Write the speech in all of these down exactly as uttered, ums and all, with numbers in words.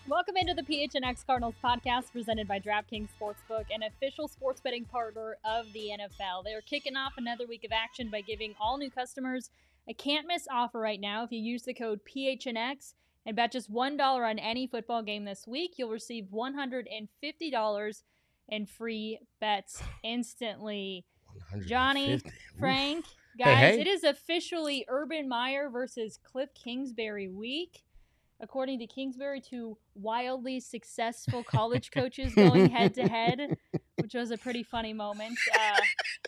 Welcome into the P H N X Cardinals podcast presented by DraftKings Sportsbook, an official sports betting partner of the N F L. They're kicking off another week of action by giving all new customers a can't-miss offer right now. If you use the code P H N X and bet just one dollar on any football game this week, you'll receive one hundred fifty dollars in free bets instantly. Johnny, Frank, guys, hey, hey. It is officially Urban Meyer versus Cliff Kingsbury week. According to Kingsbury, two wildly successful college coaches going head-to-head, which was a pretty funny moment. Uh,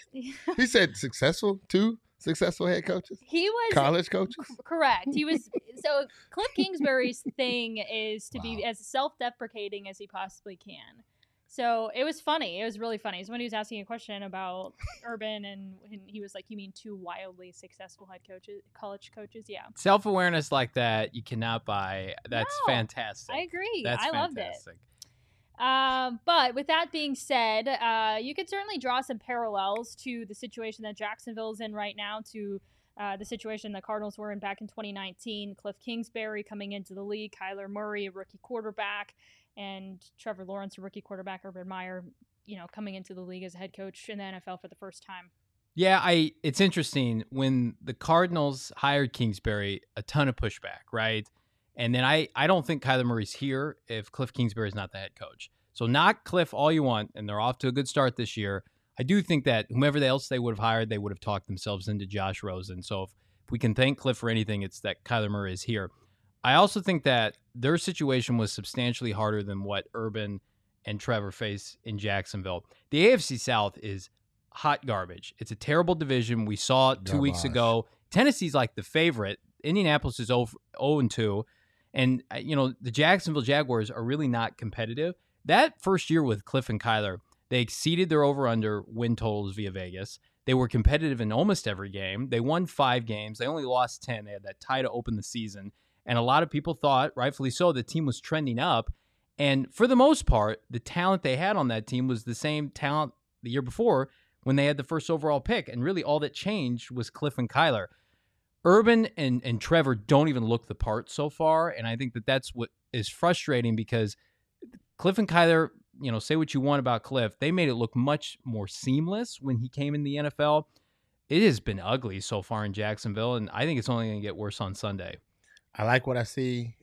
he said successful, two successful head coaches? He was college coaches? C- correct. He was. So Cliff Kingsbury's thing is to wow. be as self-deprecating as he possibly can. So it was funny. It was really funny. Somebody was asking a question about Urban, and, and he was like, you mean two wildly successful head coaches, college coaches? Yeah. Self-awareness like that, you cannot buy. That's no, fantastic. I agree. That's I fantastic. loved it. Um, but with that being said, uh, you could certainly draw some parallels to the situation that Jacksonville is in right now, to uh, the situation the Cardinals were in back in twenty nineteen. Cliff Kingsbury coming into the league, Kyler Murray, a rookie quarterback, and Trevor Lawrence, a rookie quarterback, Urban Meyer, you know, coming into the league as a head coach in the N F L for the first time. Yeah, I. It's interesting. When the Cardinals hired Kingsbury, a ton of pushback, right? And then I, I don't think Kyler Murray's here if Cliff Kingsbury is not the head coach. So knock Cliff all you want, and they're off to a good start this year. I do think that whomever else they would have hired, they would have talked themselves into Josh Rosen. So if, if we can thank Cliff for anything, it's that Kyler Murray is here. I also think that their situation was substantially harder than what Urban and Trevor face in Jacksonville. The A F C South is hot garbage. It's a terrible division. We saw it two Garbage. weeks ago. Tennessee's like the favorite. Indianapolis is oh and two. And, you know, the Jacksonville Jaguars are really not competitive. That first year with Cliff and Kyler, they exceeded their over-under win totals via Vegas. They were competitive in almost every game. They won five games. They only lost ten. They had that tie to open the season. And a lot of people thought, rightfully so, the team was trending up. And for the most part, the talent they had on that team was the same talent the year before when they had the first overall pick. And really all that changed was Cliff and Kyler. Urban and, and Trevor don't even look the part so far. And I think that that's what is frustrating, because Cliff and Kyler, you know, say what you want about Cliff, they made it look much more seamless when he came in the N F L. It has been ugly so far in Jacksonville, and I think it's only going to get worse on Sunday. I like what I see.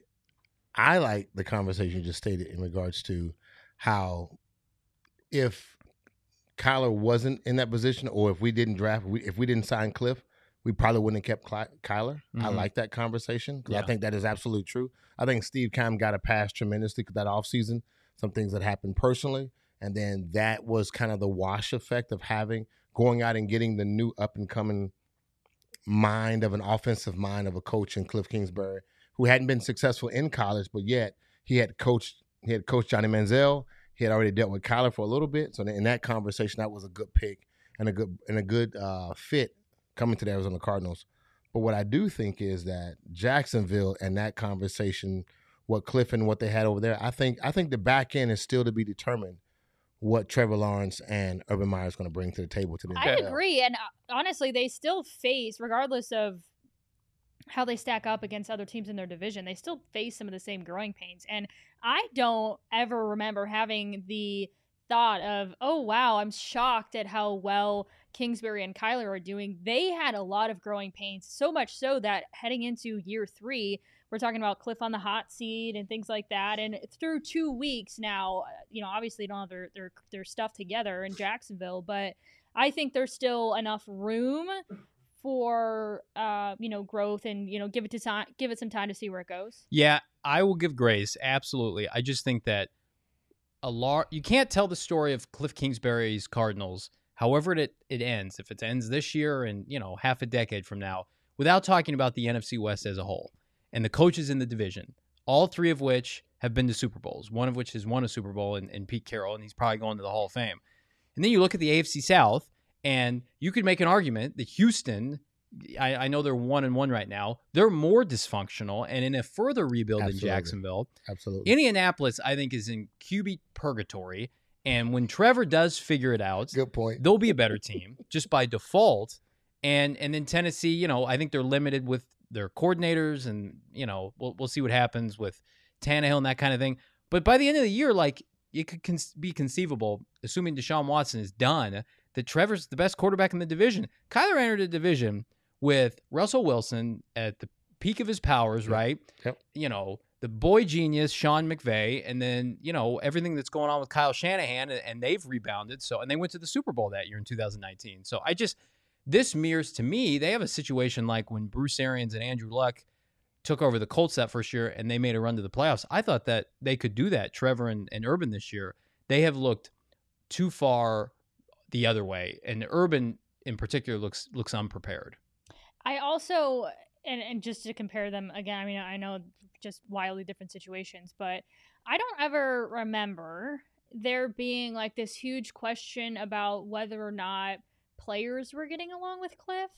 I like the conversation you just stated in regards to how if Kyler wasn't in that position, or if we didn't draft, if we didn't sign Cliff, we probably wouldn't have kept Kyler. Mm-hmm. I like that conversation because yeah. I think that is absolutely true. I think Steve Keim got a pass tremendously that offseason, some things that happened personally, and then that was kind of the wash effect of having, going out and getting the new up-and-coming mind of an offensive mind of a coach in Cliff Kingsbury, who hadn't been successful in college, but yet he had coached he had coached Johnny Manziel. He had already dealt with Kyler for a little bit. So in that conversation, that was a good pick and a good and a good uh, fit coming to the Arizona Cardinals. But what I do think is that Jacksonville and that conversation, what Cliff and what they had over there, I think I think the back end is still to be determined what Trevor Lawrence and Urban Meyer is going to bring to the table today. I agree. And honestly, they still face, regardless of how they stack up against other teams in their division, they still face some of the same growing pains. And I don't ever remember having the thought of, oh, wow, I'm shocked at how well Kingsbury and Kyler are doing. They had a lot of growing pains, so much so that heading into year three, we're talking about Cliff on the hot seat and things like that. And through two weeks now, you know, obviously don't have their, their, their stuff together in Jacksonville, but I think there's still enough room for, uh, you know, growth and, you know, give it to time, give it some time to see where it goes. Yeah, I will give grace. Absolutely. I just think that a lot, you can't tell the story of Cliff Kingsbury's Cardinals, however it, it ends, if it ends this year and, you know, half a decade from now, without talking about the N F C West as a whole and the coaches in the division, all three of which have been to Super Bowls, one of which has won a Super Bowl in, in Pete Carroll, and he's probably going to the Hall of Fame. And then you look at the A F C South, and you could make an argument that Houston, I, I know they're one and one right now, they're more dysfunctional and in a further rebuild Absolutely. in Jacksonville. Absolutely. Indianapolis, I think, is in Q B purgatory. And when Trevor does figure it out, good point, they'll be a better team just by default. And and then Tennessee, you know, I think they're limited with their coordinators, and, you know, we'll we'll see what happens with Tannehill and that kind of thing. But by the end of the year, like it could con- be conceivable, assuming Deshaun Watson is done, that Trevor's the best quarterback in the division. Kyler entered a division with Russell Wilson at the peak of his powers, Yep. right? Yep. You know, the boy genius, Sean McVay, and then, you know, everything that's going on with Kyle Shanahan, and, and they've rebounded. So, and they went to the Super Bowl that year in two thousand nineteen. So I just, this mirrors to me, they have a situation like when Bruce Arians and Andrew Luck took over the Colts that first year and they made a run to the playoffs. I thought that they could do that, Trevor and, and Urban this year. They have looked too far the other way, and Urban in particular looks looks unprepared. I also, and, and just to compare them again, I mean, I know just wildly different situations, but I don't ever remember there being like this huge question about whether or not players were getting along with Cliff.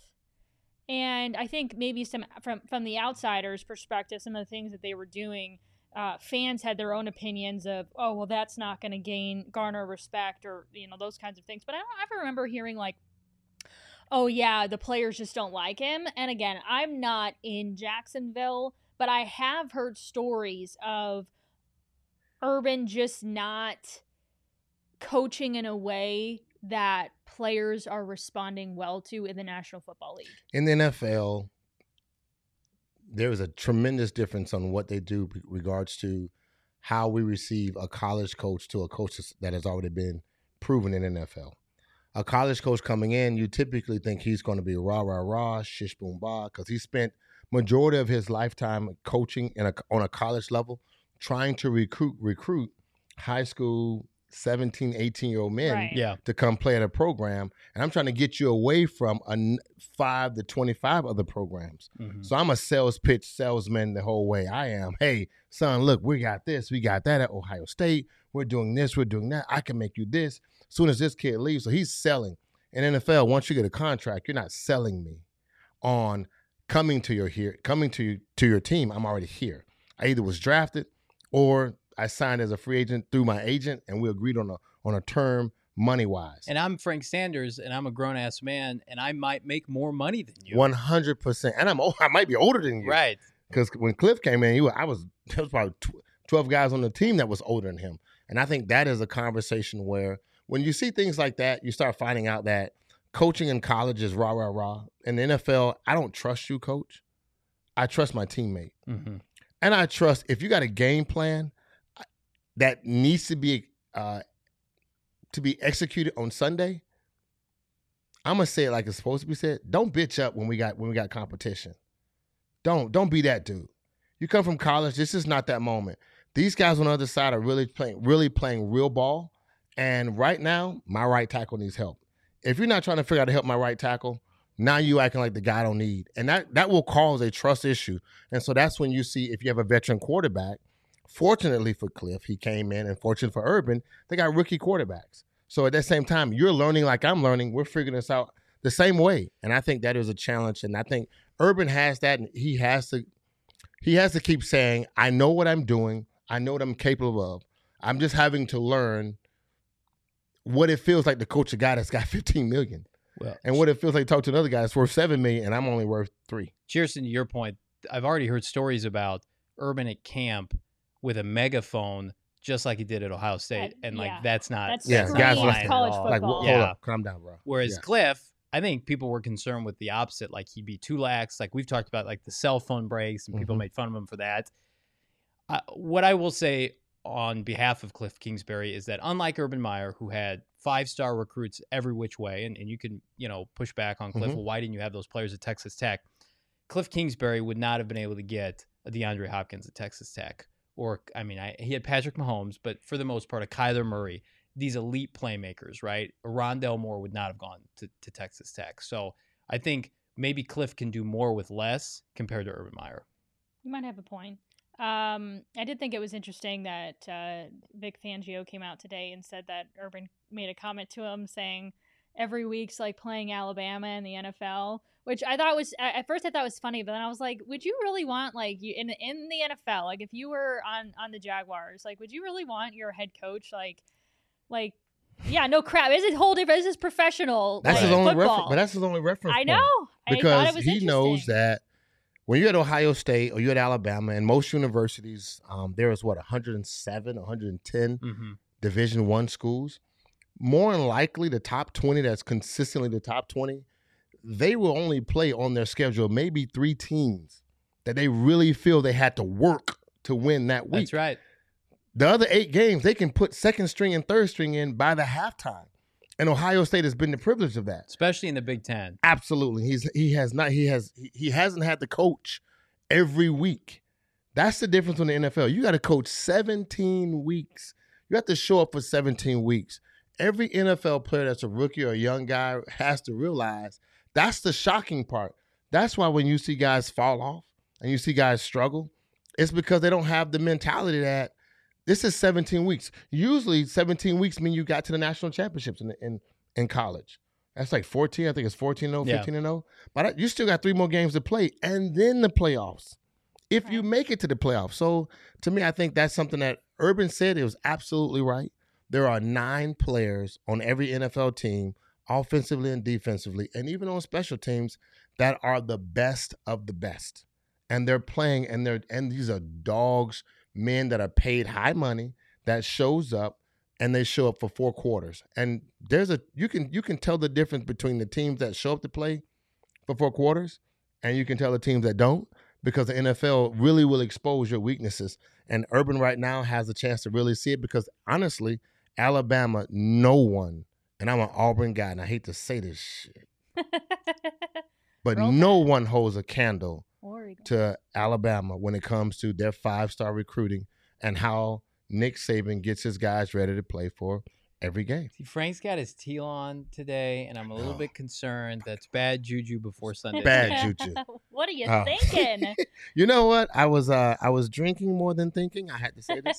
And I think maybe some from from the outsider's perspective, some of the things that they were doing, uh, fans had their own opinions of, oh, well, that's not going to gain garner respect, or you know, those kinds of things. But I don't ever remember hearing like, oh yeah, the players just don't like him. And again, I'm not in Jacksonville, but I have heard stories of Urban just not coaching in a way that players are responding well to in the National Football League. In the N F L, there is a tremendous difference on what they do in regards to how we receive a college coach to a coach that has already been proven in the N F L. A college coach coming in, you typically think he's going to be rah, rah, rah, shish, boom, bah, because he spent majority of his lifetime coaching in a, on a college level, trying to recruit recruit high school seventeen, eighteen-year-old men Right. Yeah. to come play at a program. And I'm trying to get you away from a n- five to twenty-five other programs. Mhm. So I'm a sales pitch salesman the whole way. I am, hey, son, look, we got this, we got that at Ohio State. We're doing this, we're doing that. I can make you this. As soon as this kid leaves, so he's selling. In N F L, once you get a contract, you're not selling me on coming to your here, coming to you, to your team. I'm already here. I either was drafted or I signed as a free agent through my agent, and we agreed on a on a term money wise. And I'm Frank Sanders, and I'm a grown ass man, and I might make more money than you. One hundred percent. And I'm old, I might be older than you, Right. Because when Cliff came in, he was, I was there was probably tw- twelve guys on the team that was older than him. And I think that is a conversation where when you see things like that, you start finding out that coaching in college is rah rah rah. In the N F L, I don't trust you, coach. I trust my teammate, Mm-hmm. and I trust if you got a game plan that needs to be uh, to be executed on Sunday, I'm gonna say it like it's supposed to be said. Don't bitch up when we got when we got competition. Don't don't be that dude. You come from college. This is not that moment. These guys on the other side are really playing really playing real ball. And right now, my right tackle needs help. If you're not trying to figure out how to help my right tackle, now you acting like the guy I don't need, and that that will cause a trust issue. And so that's when you see if you have a veteran quarterback. Fortunately for Cliff, he came in, and fortunate for Urban, they got rookie quarterbacks. So at that same time, you're learning like I'm learning. We're figuring this out the same way, and I think that is a challenge. And I think Urban has that, and he has to he has to keep saying, "I know what I'm doing. I know what I'm capable of. I'm just having to learn what it feels like to coach a guy that's got fifteen million, Well, and what it feels like to talk to another guy that's worth seven million, and I'm only worth three." Cheerson, to your point, I've already heard stories about Urban at camp with a megaphone, just like he did at Ohio State, That- and like yeah. that's not That's Yeah, screams guys flying listening. at college all. football. Like, wh- hold Yeah. up, calm down, bro. Whereas Yeah. Cliff, I think people were concerned with the opposite, like he'd be too lax. Like we've talked about, like the cell phone breaks, and people Mhm. made fun of him for that. Uh, what I will say on behalf of Cliff Kingsbury is that unlike Urban Meyer, who had five-star recruits every which way, and, and you can, you know, push back on Cliff, Mhm. well, why didn't you have those players at Texas Tech? Cliff Kingsbury would not have been able to get a DeAndre Hopkins at Texas Tech. Or, I mean, I, he had Patrick Mahomes, but for the most part, a Kyler Murray, these elite playmakers, right? Rondell Moore would not have gone to, to Texas Tech. So I think maybe Cliff can do more with less compared to Urban Meyer. You might have a point. Um, I did think it was interesting that uh, Vic Fangio came out today and said that Urban made a comment to him saying every week's like playing Alabama in the N F L, which I thought was at first I thought was funny, but then I was like, would you really want like you in in the N F L, like if you were on on the Jaguars, like would you really want your head coach like like yeah, no crap. This is whole different. This is professional. That's like, his only football. reference, but that's his only reference. I point. know I thought because it was he knows interesting. that when you're at Ohio State or you're at Alabama, and most universities, um, there is what one hundred seven, one hundred ten Mm-hmm. Division One schools. More than likely, the top twenty that's consistently the top twenty, they will only play on their schedule maybe three teams that they really feel they had to work to win that week. That's right. The other eight games, they can put second string and third string in by the halftime. And Ohio State has been the privilege of that. Especially in the Big Ten. Absolutely. He's he has not he has he, he hasn't had to coach every week. That's the difference in the N F L. You got to coach seventeen weeks. You have to show up for seventeen weeks. Every N F L player that's a rookie or a young guy has to realize that's the shocking part. That's why when you see guys fall off and you see guys struggle, it's because they don't have the mentality that this is seventeen weeks. Usually seventeen weeks mean you got to the national championships in in, in college. That's like fourteen. I think it's fourteen and oh, Yeah. fifteen and oh. But you still got three more games to play and then the playoffs if you Right. make it to the playoffs. So to me, I think that's something that Urban said. It was absolutely right. There are nine players on every N F L team, offensively and defensively, and even on special teams, that are the best of the best. And they're playing, and they're and these are dogs, men that are paid high money that shows up, and they show up for four quarters. And there's a you can you can tell the difference between the teams that show up to play for four quarters, and you can tell the teams that don't, because the N F L really will expose your weaknesses. And Urban right now has a chance to really see it, because honestly, Alabama, no one, and I'm an Auburn guy, and I hate to say this shit, but Roll no Tide. one holds a candle Oregon. to Alabama when it comes to their five-star recruiting and how Nick Saban gets his guys ready to play for every game. See, Frank's got his teal on today, and I'm a little Oh. bit concerned. That's bad juju before Sunday. Bad juju. What are you Oh. thinking? You know what? I was uh, I was drinking more than thinking. I had to say this.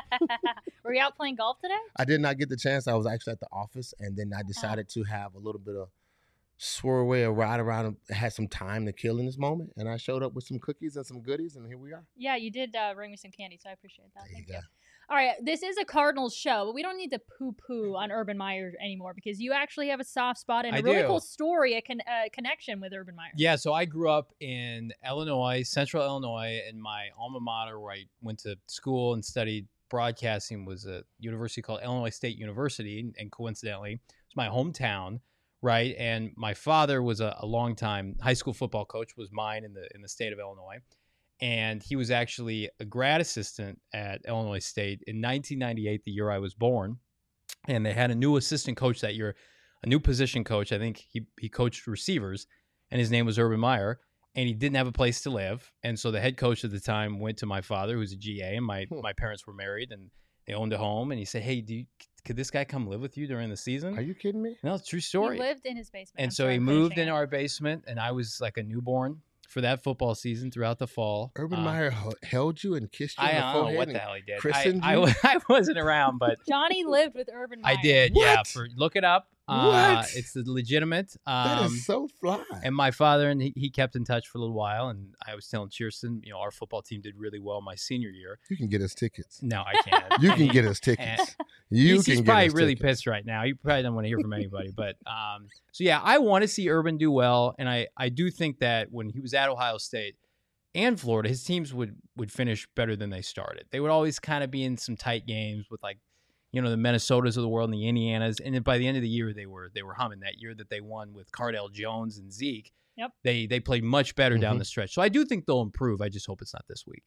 Were you out playing golf today? I did not get the chance. I was actually at the office, and then I decided to have a little bit of swerve away, a ride around. I had some time to kill in this moment, and I showed up with some cookies and some goodies, and here we are. Yeah, you did uh, bring me some candy, so I appreciate that. There you Thank go. you. All right, this is a Cardinals show, but we don't need to poo-poo on Urban Meyer anymore, because you actually have a soft spot and a I really do. cool story, a con- uh, connection with Urban Meyer. Yeah, so I grew up in Illinois, Central Illinois, and my alma mater, where I went to school and studied broadcasting, was a university called Illinois State University, and coincidentally, it's my hometown, right? And my father was a, a longtime high school football coach, was mine in the in the state of Illinois, and he was actually a grad assistant at Illinois State in nineteen ninety-eight, the year I was born, and they had a new assistant coach that year, a new position coach. I think he he coached receivers, and his name was Urban Meyer, and he didn't have a place to live. And so the head coach at the time went to my father, who's a G A, and my, Hmm. my parents were married, and they owned a home. And he said, hey, do you, could this guy come live with you during the season? Are you kidding me? No, it's a true He story. lived in his basement. And I'm so sorry he for moved finishing in it. our basement, and I was like a newborn for that football season throughout the fall. Urban Uh, Meyer h- held you and kissed you I on the don't know forehead. what and the hell he did. I, christened I, you? wa- I wasn't around, but Johnny lived with Urban Meyer. I did. Yeah, What? for look it up. Uh, What? It's legitimate. Um, that is so fly. And my father, and he, he kept in touch for a little while. And I was telling Cheerson, you know, our football team did really well my senior year. You can get us tickets. No, I can't. You And can he- get us tickets. You he's, can he's get probably us really tickets. pissed right now. He probably doesn't want to hear from anybody. But um, so yeah, I want to see Urban do well, and I I do think that when he was at Ohio State and Florida, his teams would would finish better than they started. They would always kind of be in some tight games with, like, you know, the Minnesotas of the world and the Indianas, and then by the end of the year they were they were humming. That year that they won with Cardell Jones and Zeke, Yep. they they played much better down Mhm. the stretch. So I do think they'll improve. I just hope it's not this week.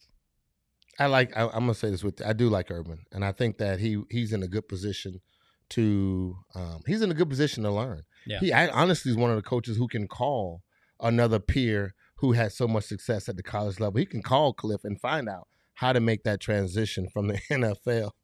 I like. I, I'm gonna say this with. I do like Urban, and I think that he he's in a good position to. Um, he's in a good position to learn. Yeah. He I, honestly is one of the coaches who can call another peer who has so much success at the college level. He can call Cliff and find out how to make that transition from the N F L,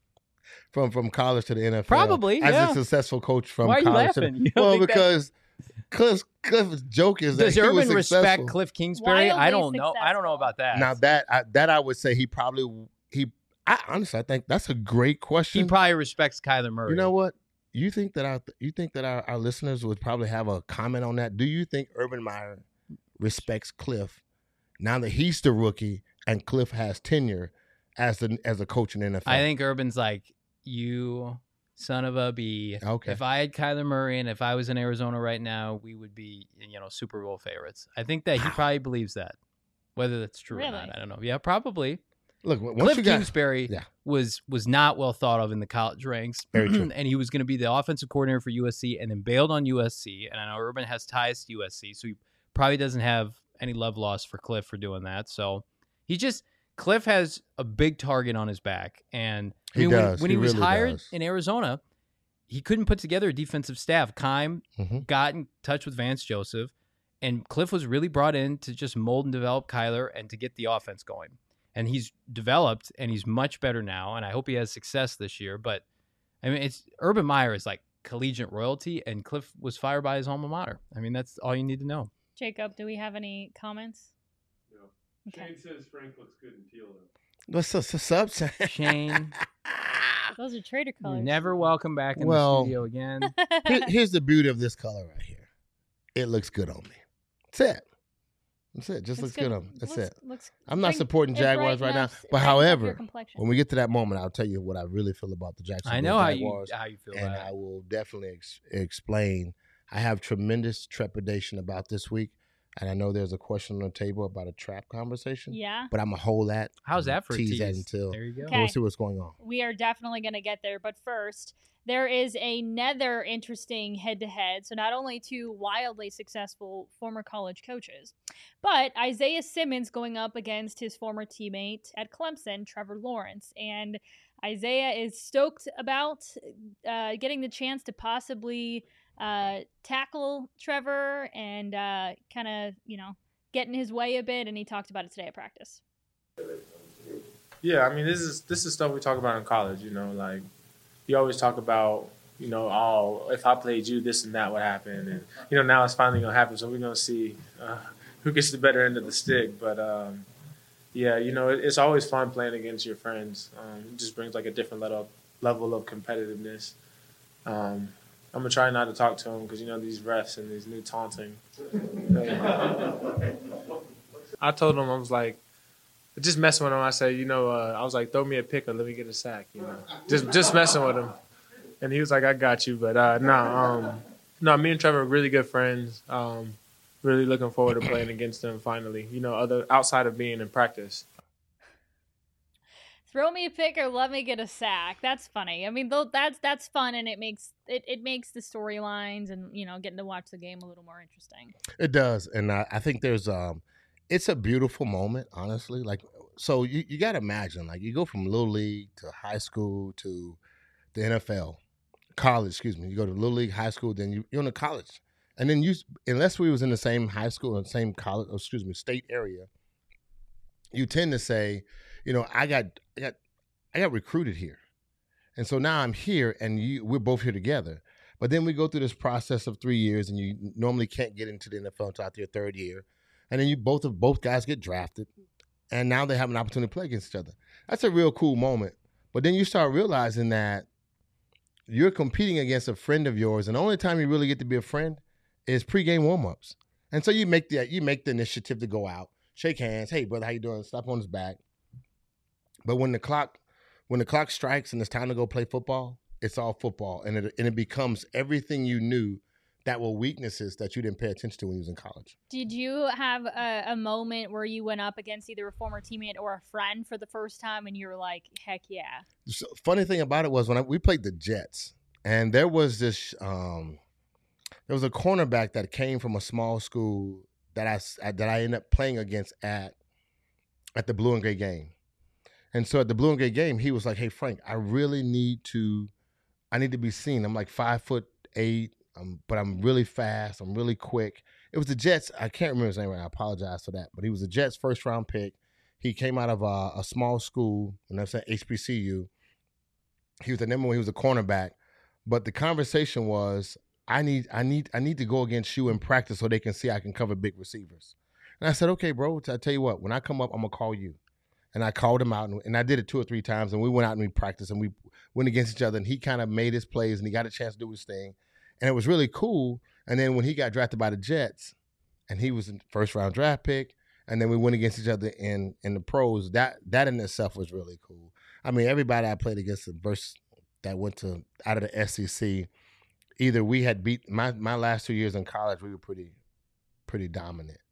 from from college to the N F L. Probably, as yeah. a successful coach from Why are you college. To laughing? the, You don't well, think that- because Cliff Cliff's joke is Does that he was Urban respect successful. Cliff Kingsbury? I Wildly don't know. I don't know successful. about that. Now that I, that I would say he probably he I honestly I think that's a great question. he probably respects Kyler Murray. You know what? You think that our you think that our, our listeners would probably have a comment on that? Do you think Urban Meyer respects Cliff now that he's the rookie and Cliff has tenure as the as a coach in the N F L? I think Urban's like, you son of a b. Okay. If I had Kyler Murray and if I was in Arizona right now, we would be, you know, Super Bowl favorites. I think that he Wow. probably believes that. Whether that's true Really? or not, I don't know. Yeah, probably. Look, once Cliff you got, Kingsbury yeah. was was not well thought of in the college ranks. Very true. And he was going to be the offensive coordinator for U S C and then bailed on U S C. And I know Urban has ties to U S C, so he probably doesn't have any love lost for Cliff for doing that. So he just Cliff has a big target on his back. And I He mean, when, does. when He he, was really hired does. in Arizona, he couldn't put together a defensive staff. Keim Mhm. got in touch with Vance Joseph, and Cliff was really brought in to just mold and develop Kyler and to get the offense going. And he's developed, and he's much better now, and I hope he has success this year. But, I mean, it's Urban Meyer is like collegiate royalty, and Cliff was fired by his alma mater. I mean, that's all you need to know. Jacob, do we have any comments? No. Okay. Shane says Frank looks good in teal, though. What's up, what's up, Shane? Shane, Those are trader you're colors. never welcome back in Well, the studio again. Here- here's the beauty of this color right here. It looks good on me. That's it. That's it. Just looks, good. on me. That's looks, it. Looks, I'm not bring- supporting it Jaguars right now, brightens- but brightens up your however, complexion. when we get to that moment, I'll tell you what I really feel about the Jacksonville I know how you Jaguars, how you feel and about I it. will definitely ex- explain. I have tremendous trepidation about this week, and I know there's a question on the table about a trap conversation, Yeah, but I'm gonna hold that. How's and that for a tease tease? that until There you go. Okay. we'll see what's going on. we are definitely going to get there. But first, there is another interesting head-to-head. So not only two wildly successful former college coaches, but Isaiah Simmons going up against his former teammate at Clemson, Trevor Lawrence. And Isaiah is stoked about uh, getting the chance to possibly uh, tackle Trevor and uh, kind of, you know, get in his way a bit. And he talked about it today at practice. Yeah, I mean, this is this is stuff we talk about in college. You know, like you always talk about, you know, oh, if I played you, this and that would happen, and you know, now it's finally gonna happen. So we're gonna see uh, who gets the better end of the stick. But um, yeah, you know, it, it's always fun playing against your friends. Um, it just brings like a different level level of competitiveness. Um, I'm gonna try not to talk to him because you know these refs and these new taunting. I told him I was like. Just messing with him, I said, you know, uh, I was like, throw me a pick or let me get a sack, you know, just just messing with him, and he was like, I got you, but uh, no, um, no, me and Trevor are really good friends. Um, really looking forward to playing against him finally, you know, other outside of being in practice. Throw me a pick or let me get a sack. That's funny. I mean, though that's that's fun, and it makes it, it makes the storylines and you know getting to watch the game a little more interesting. It does, and I, I think there's um, it's a beautiful moment, honestly. Like, so you, you got to imagine, like, you go from little league to high school to the N F L, college. Excuse me. You go to little league, high school, then you, you're in the college, and then you, unless we was in the same high school and same college, oh, excuse me, state area, you tend to say, you know, I got, I got, I got recruited here, and so now I'm here, and you, we're both here together. But then we go through this process of three years, and you normally can't get into the N F L until after your third year. And then you both of both guys get drafted, and now they have an opportunity to play against each other. That's a real cool moment. But then you start realizing that you're competing against a friend of yours, and the only time you really get to be a friend is pregame warm-ups. And so you make the you make the initiative to go out, shake hands, hey brother, how you doing? Slap on his back. But when the clock when the clock strikes and it's time to go play football, it's all football, and it and it becomes everything you knew that were weaknesses that you didn't pay attention to when you was in college. Did you have a, a moment where you went up against either a former teammate or a friend for the first time, and you were like, "Heck yeah"? So, funny thing about it was when I, we played the Jets, and there was this, um, there was a cornerback that came from a small school that I that I ended up playing against at at the Blue and Gray game. And so at the Blue and Gray game, he was like, "Hey Frank, I really need to, I need to be seen. I'm like five foot eight." Um, but I'm really fast. I'm really quick. It was the Jets. I can't remember his name right now. I apologize for that. But he was the Jets' first round pick. He came out of a, a small school, and that's at H B C U. He was the number one. He was a cornerback. But the conversation was, I need, I need, I need to go against you in practice so they can see I can cover big receivers. And I said, okay, bro. I tell you what, when I come up, I'm gonna call you. And I called him out, and, and I did it two or three times. And we went out and we practiced, and we went against each other. And he kind of made his plays, and he got a chance to do his thing. And it was really cool. And then when he got drafted by the Jets, and he was a first round draft pick, and then we went against each other in in the pros, that that in itself was really cool. I mean, everybody I played against the verse that went to out of the S E C, either we had beat my my last two years in college, we were pretty pretty dominant.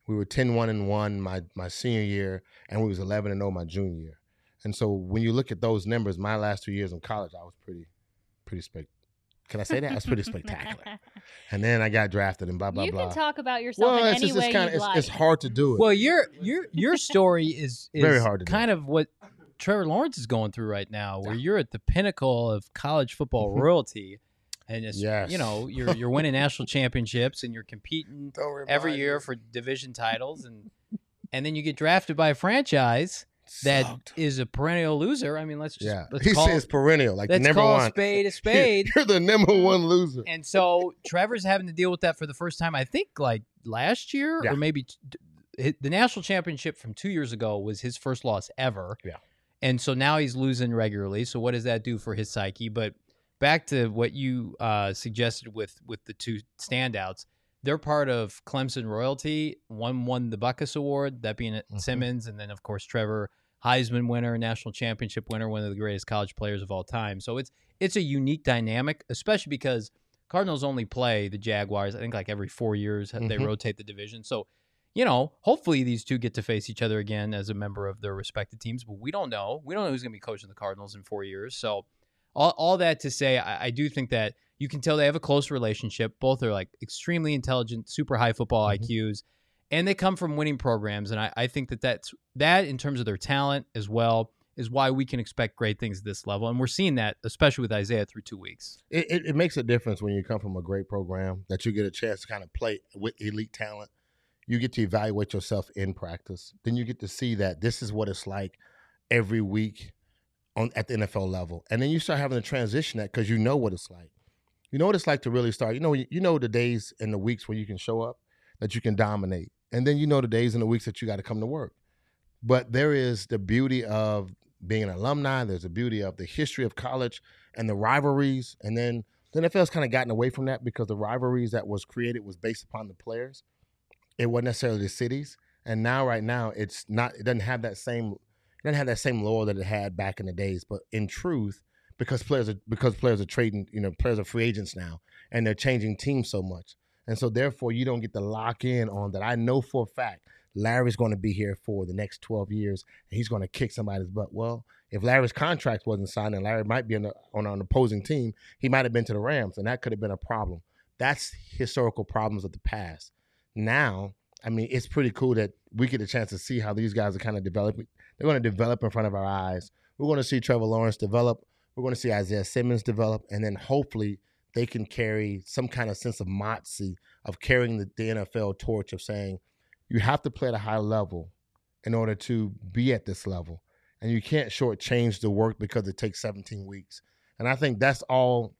We were ten one and one my my senior year, and we was eleven and oh my junior year. And so when you look at those numbers, my last two years in college, I was pretty, pretty spec. Can I say that? I was pretty spectacular. And then I got drafted and blah blah you blah. You can talk about yourself well, in it's any just, way it's kinda, you'd it's, like. it's hard to do it. Well, your your your story is, is very hard to kind do. of what Trevor Lawrence is going through right now, where you're at the pinnacle of college football royalty, and it's, yes. you know you're you're winning national championships and you're competing every year me. for division titles, and and then you get drafted by a franchise that Sucked. is a perennial loser. I mean, let's just yeah. let's he call, says perennial, like let's the number call one. a spade a spade. You're the number one loser. And so Trevor's having to deal with that for the first time, I think, like last year yeah. or maybe t- the national championship from two years ago was his first loss ever. Yeah. And so now he's losing regularly. So what does that do for his psyche? But back to what you uh, suggested with with the two standouts. They're part of Clemson royalty. One won the Buckus Award, that being mm-hmm. Simmons, and then of course Trevor, Heisman winner, national championship winner, one of the greatest college players of all time. So it's it's a unique dynamic, especially because Cardinals only play the Jaguars, I think, like every four years. Mm-hmm. They rotate the division. So, you know, hopefully these two get to face each other again as a member of their respective teams. But we don't know. We don't know who's going to be coaching the Cardinals in four years. So all, all that to say, I, I do think that you can tell they have a close relationship. Both are like extremely intelligent, super high football mm-hmm. I Qs. And they come from winning programs, and I, I think that that's, that in terms of their talent as well is why we can expect great things at this level. And we're seeing that, especially with Isaiah through two weeks. It, it, it makes a difference when you come from a great program that you get a chance to kind of play with elite talent. You get to evaluate yourself in practice. Then you get to see that this is what it's like every week on at the N F L level. And then you start having to transition that because you know what it's like. You know what it's like to really start. You know, you know the days and the weeks where you can show up, that you can dominate. And then you know the days and the weeks that you got to come to work. But there is the beauty of being an alumni. There's the beauty of the history of college and the rivalries. And then the N F L's kind of gotten away from that because the rivalries that was created was based upon the players. It wasn't necessarily the cities. And now, right now, it's not. It doesn't have that same. It doesn't have that same lore that it had back in the days. But in truth, because players are because players are trading, you know, players are free agents now, and they're changing teams so much. And so, therefore, you don't get to lock in on that. I know for a fact Larry's going to be here for the next twelve years, and he's going to kick somebody's butt. Well, if Larry's contract wasn't signed and Larry might be on, the, on an opposing team, he might have been to the Rams, and that could have been a problem. That's historical problems of the past. Now, I mean, it's pretty cool that we get a chance to see how these guys are kind of developing. They're going to develop in front of our eyes. We're going to see Trevor Lawrence develop. We're going to see Isaiah Simmons develop, and then hopefully – they can carry some kind of sense of moxie of carrying the, the N F L torch of saying you have to play at a high level in order to be at this level. And you can't shortchange the work because it takes seventeen weeks. And I think that's all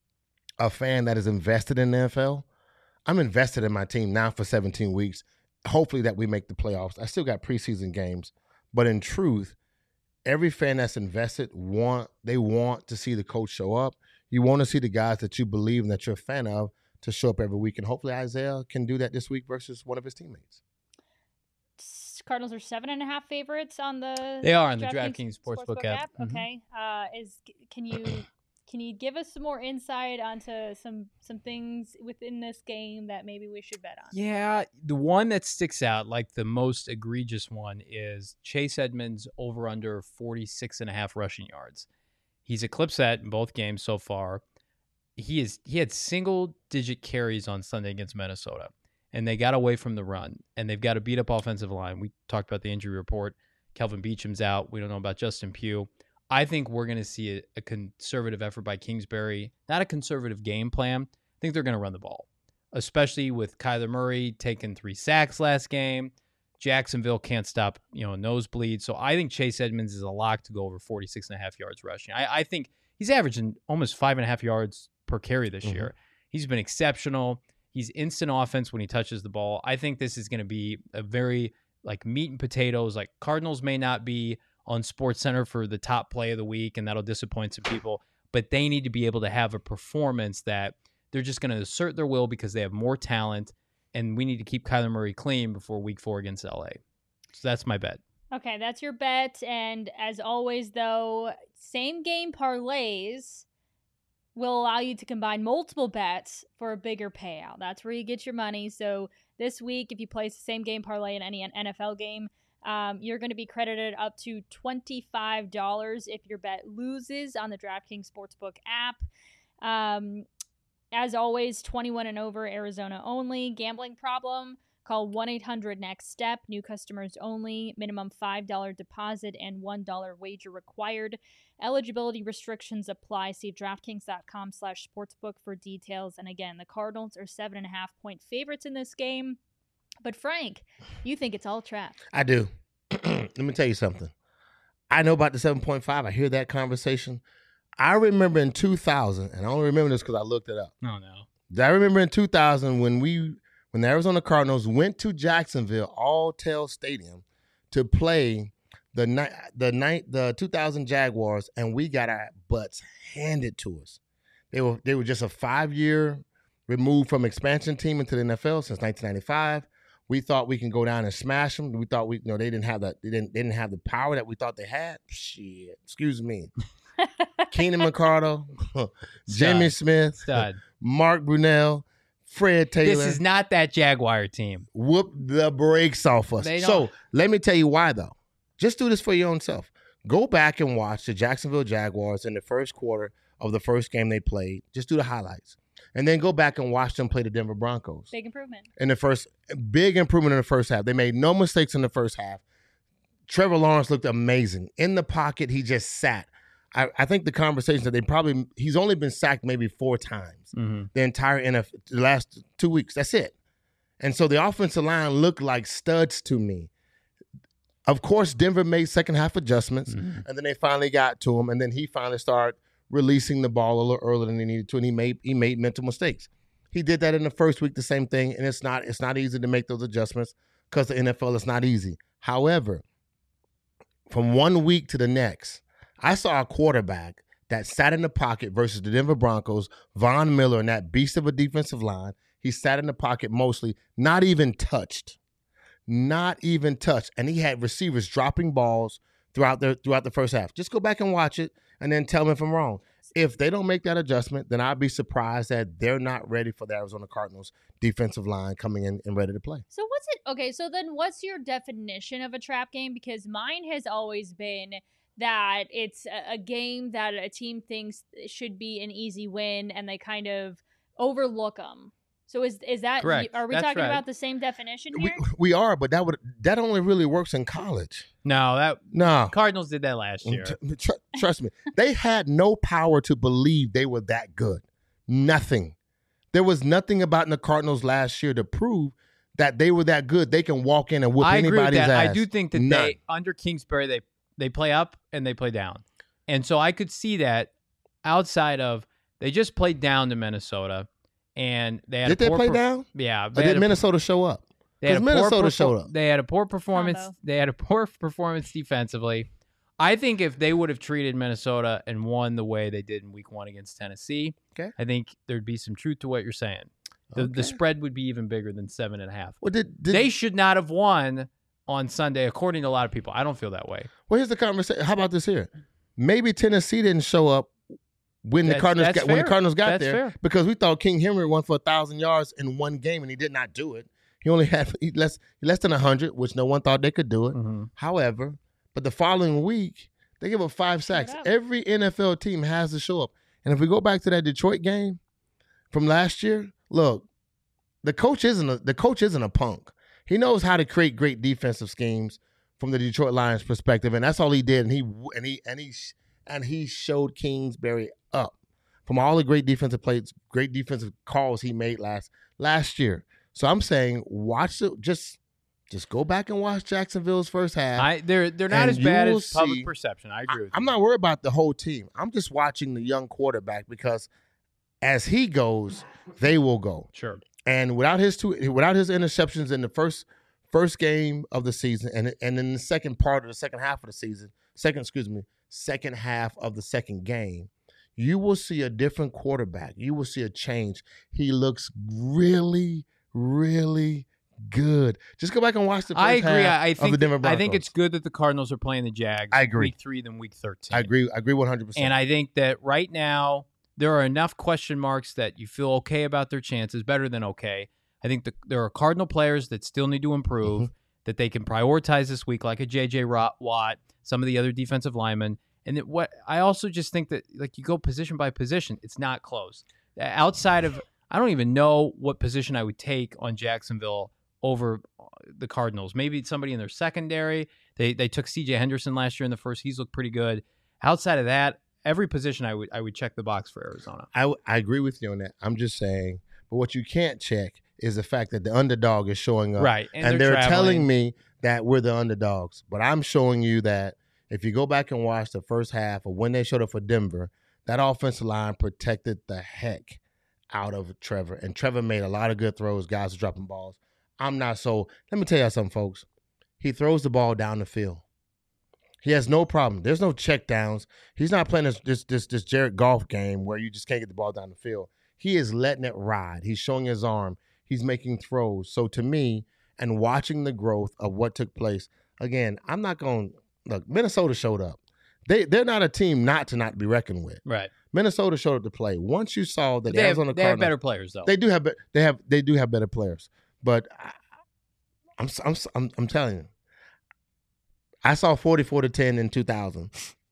a fan that is invested in the N F L. I'm invested in my team now for seventeen weeks. Hopefully that we make the playoffs. I still got preseason games. But in truth, every fan that's invested, want they want to see the coach show up. You want to see the guys that you believe and that you're a fan of to show up every week. And hopefully Isaiah can do that this week versus one of his teammates. Cardinals are seven and a half favorites on the They are on the DraftKings DraftKings Sportsbook, Sportsbook app. app. Mm-hmm. Okay. Uh, is can you can you give us some more insight onto some some things within this game that maybe we should bet on? Yeah, the one that sticks out, like the most egregious one, is Chase Edmonds over under forty-six and a half rushing yards. He's eclipsed that in both games so far. He is he had single digit carries on Sunday against Minnesota, and they got away from the run, and they've got a beat up offensive line. We talked about the injury report. Kelvin Beacham's out. We don't know about Justin Pugh. I think we're going to see a, a conservative effort by Kingsbury, not a conservative game plan. I think they're going to run the ball, especially with Kyler Murray taking three sacks last game. Jacksonville can't stop, you know, nosebleed. So I think Chase Edmonds is a lock to go over forty-six and a half yards rushing. I, I think he's averaging almost five and a half yards per carry this mm-hmm. year. He's been exceptional. He's instant offense when he touches the ball. I think this is going to be a very like meat and potatoes. Like Cardinals may not be on SportsCenter for the top play of the week, and that'll disappoint some people, but they need to be able to have a performance that they're just going to assert their will because they have more talent. And we need to keep Kyler Murray clean before week four against L A. So that's my bet. Okay, that's your bet. And as always, though, same game parlays will allow you to combine multiple bets for a bigger payout. That's where you get your money. So This week, if you place the same game parlay in any N F L game, um, you're going to be credited up to twenty-five dollars if your bet loses on the DraftKings Sportsbook app. Um, as always, twenty-one and over, Arizona only. Gambling problem? Call one eight hundred next step. New customers only. Minimum five dollars deposit and one dollar wager required. Eligibility restrictions apply. See DraftKings.com slash sportsbook for details. And again, the Cardinals are seven and a half point favorites in this game. But Frank, you think it's all trap. I do. Let me tell you something. I know about the seven point five. I hear that conversation. I remember in two thousand, and I only remember this because I looked it up. Oh, no. I remember in two thousand when we when the Arizona Cardinals went to Jacksonville All-Tel Stadium to play the night the night the two thousand Jaguars, and we got our butts handed to us. They were they were just a five-year removed from expansion team into the N F L since nineteen ninety-five. We thought we can go down and smash them. We thought we you know they didn't have the they didn't they didn't have the power that we thought they had. Shit, excuse me. Keenan McCardle, Jimmy Smith, Stud. Mark Brunell, Fred Taylor. This is not that Jaguar team. Whoop the brakes off us. They So don't- let me tell you why, though. Just do this for your own self. Go back and watch the Jacksonville Jaguars in the first quarter of the first game they played. Just do the highlights. And then go back and watch them play the Denver Broncos. Big improvement. In the first, big improvement in the first half. They made no mistakes in the first half. Trevor Lawrence looked amazing. In the pocket, he just sat. I, I think the conversation that they probably, he's only been sacked maybe four times Mm-hmm. the entire N F L, the last two weeks. That's it. And so the offensive line looked like studs to me. Of course, Denver made second half adjustments, Mm-hmm. and then they finally got to him, and then he finally started releasing the ball a little earlier than he needed to, and he made he made mental mistakes. He did that in the first week, the same thing, and it's not it's not easy to make those adjustments because the N F L is not easy. However, from one week to the next, I saw a quarterback that sat in the pocket versus the Denver Broncos, Von Miller, and that beast of a defensive line. He sat in the pocket mostly, not even touched. Not even touched. And he had receivers dropping balls throughout the throughout the first half. Just go back and watch it and then tell me if I'm wrong. If they don't make that adjustment, then I'd be surprised that they're not ready for the Arizona Cardinals defensive line coming in and ready to play. So what's it? Okay, so then what's your definition of a trap game? Because mine has always been that it's a, a game that a team thinks should be an easy win, and they kind of overlook them. So is is that Correct. are we That's talking right. about the same definition We, here? we are, but that would that only really works in college. No, that No. Cardinals did that last year. Tr- tr- trust me. They had no power to believe they were that good. Nothing. There was nothing about the Cardinals last year to prove that they were that good. They can walk in and whoop I agree with anybody's that. ass. I do think that None. they under Kingsbury they they play up and they play down, and so I could see that outside of they just played down to Minnesota, and they had Did a they poor play per- down? Yeah, Or they did had a- Minnesota show up? They had a 'Cause poor Minnesota perfor- showed up. They had a poor performance. Combo. They had a poor performance defensively. I think if they would have treated Minnesota and won the way they did in Week One against Tennessee, Okay. I think there'd be some truth to what you're saying. The, Okay. the spread would be even bigger than seven and a half. Well, did, did, They should not have won on Sunday, according to a lot of people. I don't feel that way. well, here's the conversation. How about this here? Maybe Tennessee didn't show up when the That's- Cardinals that's got, when the fair. Cardinals got That's there fair. because we thought King Henry won for a thousand yards in one game and he did not do it. He only had he less less than a hundred, which no one thought they could do it. Mhm. However, but the following week they give up five sacks. up. Every N F L team has to show up. And if we go back to that Detroit game from last year, look, the coach isn't a, the coach isn't a punk. He knows how to create great defensive schemes from the Detroit Lions perspective, and that's all he did. And he and he and he and he showed Kingsbury up from all the great defensive plays, great defensive calls he made last last year. So I'm saying, watch it. Just just go back and watch Jacksonville's first half. I they're they're not And as bad you as will public see- perception. I agree with I'm you. not worried about the whole team. I'm just watching the young quarterback because as he goes, they will go. Sure. And without his two, without his interceptions in the first first game of the season, and and in the second part of the second half of the season, second excuse me, second half of the second game, you will see a different quarterback. You will see a change. He looks really, really good. Just go back and watch the first I agree. half I, I of the think Denver I Broncos. think it's good that the Cardinals are playing the Jags. I agree. Week three than week thirteen. I agree. I agree one hundred percent. And I think that right now there are enough question marks that you feel okay about their chances, better than okay. I think the, there are Cardinal players that still need to improve, mm-hmm. that they can prioritize this week, like a J J Watt, some of the other defensive linemen. And it, what I also just think that, like, you go position by position, it's not close. Outside of, I don't even know what position I would take on Jacksonville over the Cardinals. Maybe it's somebody in their secondary. They they took C J Henderson last year in the first. He's looked pretty good. Outside of that, every position I would I would check the box for Arizona. I, I agree with you on that. I'm just saying, but what you can't check is the fact that the underdog is showing up. Right. And, and they're, they're telling me that we're the underdogs. But I'm showing you that if you go back and watch the first half of when they showed up for Denver, that offensive line protected the heck out of Trevor. And Trevor made a lot of good throws. Guys were dropping balls. I'm not so. Let me tell you something, folks. He throws the ball down the field. He has no problem. There's no check downs. He's not playing this this this, this Jared Goff game where you just can't get the ball down the field. He is letting it ride. He's showing his arm. He's making throws. So to me, and watching the growth of what took place, again, I'm not going to – look, Minnesota showed up. They, they're not a team not to not be reckoned with. Right. Minnesota showed up to play. Once you saw that they Arizona have, they Cardinals – have better players, though. They do have – they have they do have better players. But I, I'm, I'm, I'm, I'm telling you, I saw forty-four to ten in two thousand.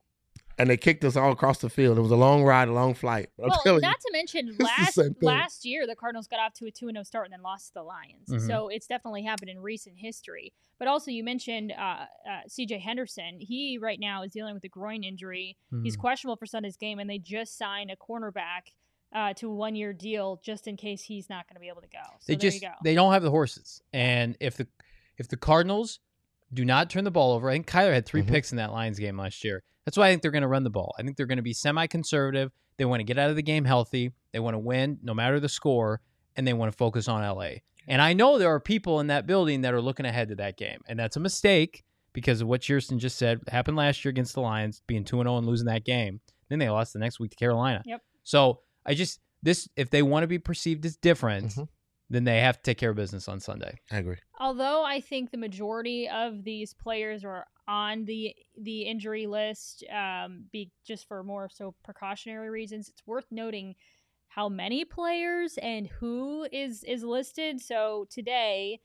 And they kicked us all across the field. It was a long ride, a long flight. But well, I'm telling not you, to mention last last year, the Cardinals got off to a two and oh start and then lost to the Lions. Mm-hmm. So it's definitely happened in recent history. But also, you mentioned uh, uh, C J Henderson. He right now is dealing with a groin injury. Mm-hmm. He's questionable for Sunday's game, and they just signed a cornerback uh, to a one-year deal just in case he's not going to be able to go. So they there just you go. They don't have the horses, and if the if the Cardinals do not turn the ball over, I think Kyler had three mm-hmm. picks in that Lions game last year. That's why I think they're going to run the ball. I think they're going to be semi-conservative. They want to get out of the game healthy. They want to win no matter the score, and they want to focus on L A. And I know there are people in that building that are looking ahead to that game, and that's a mistake because of what Shearston just said happened last year against the Lions, being two and oh and losing that game. Then they lost the next week to Carolina. Yep. So I just this if they want to be perceived as different, mm-hmm. then they have to take care of business on Sunday. I agree. Although I think the majority of these players are on the the injury list, um, be just for more so precautionary reasons, it's worth noting how many players and who is is listed. So today,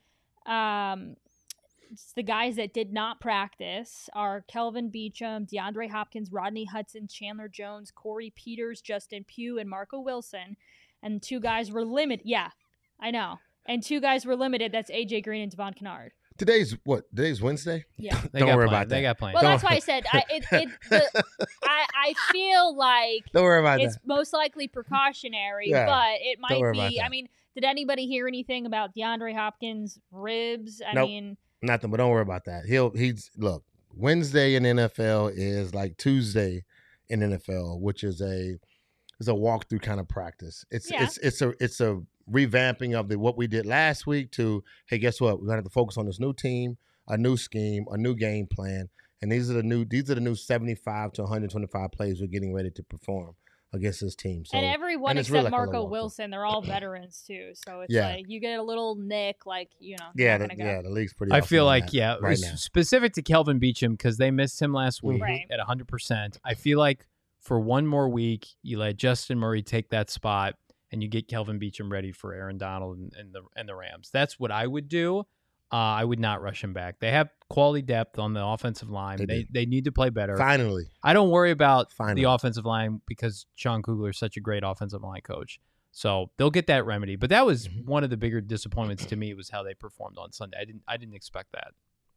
um, it's the guys that did not practice are Kelvin Beachum, DeAndre Hopkins, Rodney Hudson, Chandler Jones, Corey Peters, Justin Pugh, and Marco Wilson. And two guys were limited. Yeah, I know. And two guys were limited. That's A J Green and Devon Kennard. Today's what? Today's Wednesday? Yeah. Don't worry planned. about that. They got planned. Well, Don't that's why I said I, it, it, the, I, I feel like Don't worry about it's that. most likely precautionary, Yeah. but it Don't worry might about be. that. I mean, did anybody hear anything about DeAndre Hopkins' ribs? I Nope. mean, Nothing, but don't worry about that. He'll he's look, Wednesday in N F L is like Tuesday in N F L, which is a is a walkthrough kind of practice. It's Yeah. it's it's a it's a revamping of the what we did last week to, hey, guess what? We're gonna have to focus on this new team, a new scheme, a new game plan. And these are the new these are the new seventy-five to one twenty-five plays we're getting ready to perform against this team. So and everyone and it's except really like a Marco little walkthrough. Wilson, they're all veterans too. So it's Yeah. like you get a little nick, like you know. yeah, not the, gonna go. yeah, the league's pretty I awesome feel on like, that yeah, right s- now. specific to Kelvin Beachum because they missed him last week Right. at one hundred percent. I feel like for one more week, you let Justin Murray take that spot and you get Kelvin Beachum ready for Aaron Donald and, and the and the Rams. That's what I would do. Uh, I would not rush him back. They have quality depth on the offensive line. They They do. they need to play better. Finally. I don't worry about Finally. the offensive line because Sean Kugler is such a great offensive line coach. So they'll get that remedy. But that was Mhm. one of the bigger disappointments to me was how they performed on Sunday. I didn't I didn't expect that.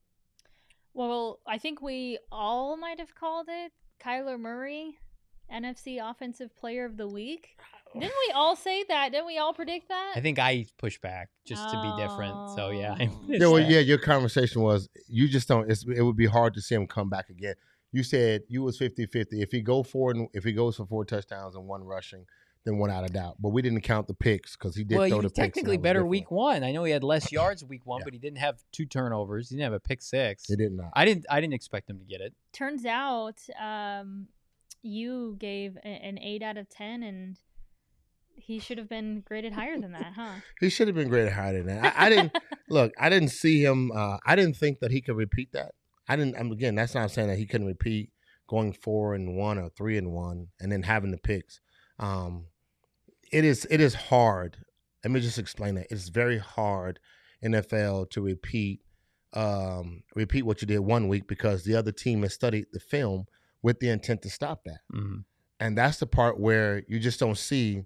Well, I think we all might have called it Kyler Murray, N F C Offensive Player of the Week. Didn't we all say that? Didn't we all predict that? I think I pushed back just to be different. So yeah. I Oh. Yeah, well, missed that. yeah, your conversation was you just don't. It's, it would be hard to see him come back again. You said you was fifty-fifty. If he go for and if he goes for four touchdowns and one rushing, then one out of doubt. But we didn't count the picks because he did Well, throw he the was picks. and technically that was better different. week one. I know he had less yards week one, Yeah. but he didn't have two turnovers. He didn't have a pick six. He did not. I didn't. I didn't expect him to get it. Turns out, um, you gave a- an eight out of ten, and he should have been graded higher than that, huh? He should have been graded higher than that. I, I didn't look. I didn't see him. Uh, I didn't think that he could repeat that. I didn't. I'm, again, that's not saying that he couldn't repeat going four and one or three and one, and then having the picks. Um, it is. It is hard Let me just explain that. It's very hard in N F L to repeat um, repeat what you did one week because the other team has studied the film with the intent to stop that. Mm-hmm. And that's the part where you just don't see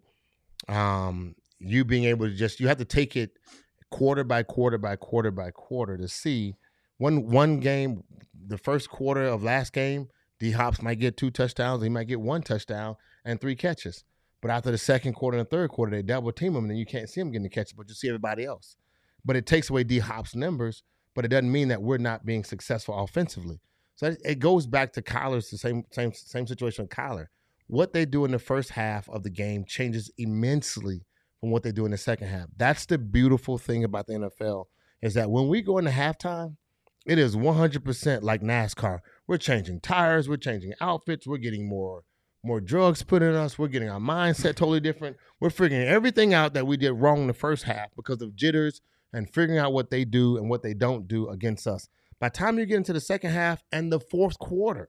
um, you being able to just, you have to take it quarter by quarter by quarter by quarter to see one one game, the first quarter of last game, D Hops might get two touchdowns, he might get one touchdown and three catches. But after the second quarter and third quarter, they double team him, and then you can't see him getting the catches, but you see everybody else. But it takes away D Hop's numbers, but it doesn't mean that we're not being successful offensively. So it goes back to Kyler's the same same same situation with Kyler. What they do in the first half of the game changes immensely from what they do in the second half. That's the beautiful thing about the N F L is that when we go into halftime, it is one hundred percent like NASCAR. We're changing tires, we're changing outfits, we're getting more more drugs put in us, we're getting our mindset totally different. We're figuring everything out that we did wrong in the first half because of jitters and figuring out what they do and what they don't do against us. By the time you get into the second half and the fourth quarter,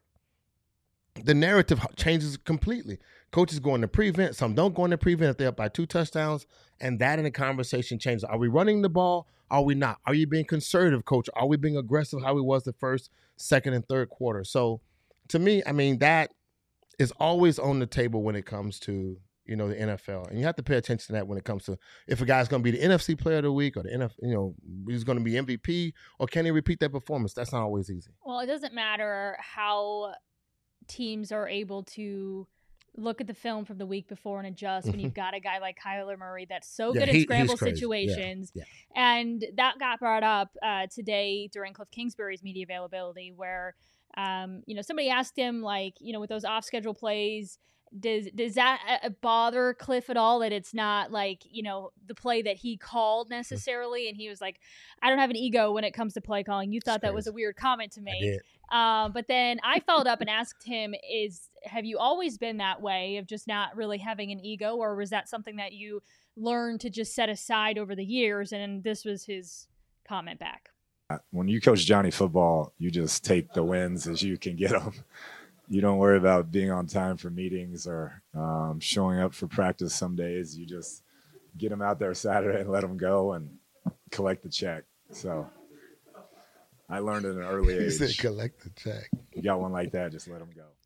the narrative changes completely. Coaches go into prevent, some don't go into prevent if they're up by two touchdowns, and that in the conversation changes. Are we running the ball? Are we not? Are you being conservative, coach? Are we being aggressive how we was the first, second, and third quarter? So to me, I mean, that is always on the table when it comes to, you know, the N F L. And you have to pay attention to that when it comes to if a guy's going to be the N F C player of the week or the N F L, you know, he's going to be M V P or can he repeat that performance? That's not always easy. Well, it doesn't matter how teams are able to look at the film from the week before and adjust when you've got a guy like Kyler Murray that's so Yeah, good he- in scramble he's crazy. situations. Yeah, And that got brought up uh, today during Cliff Kingsbury's media availability where, um, you know, somebody asked him, like, you know, with those off-schedule plays, does does that uh, bother Cliff at all that it's not like, you know, the play that he called necessarily? And he was like, I don't have an ego when it comes to play calling. You thought That's that was a crazy. weird comment to I make. did. Um, but then I followed up and asked him, is have you always been that way of just not really having an ego, or was that something that you learned to just set aside over the years? And this was his comment back. When you coach Johnny football, you just take the wins as you can get them. You don't worry about being on time for meetings or um, showing up for practice some days. You just get them out there Saturday and let them go and collect the check. So I learned at an early He said age. collect the check. You got one like that, just let them go.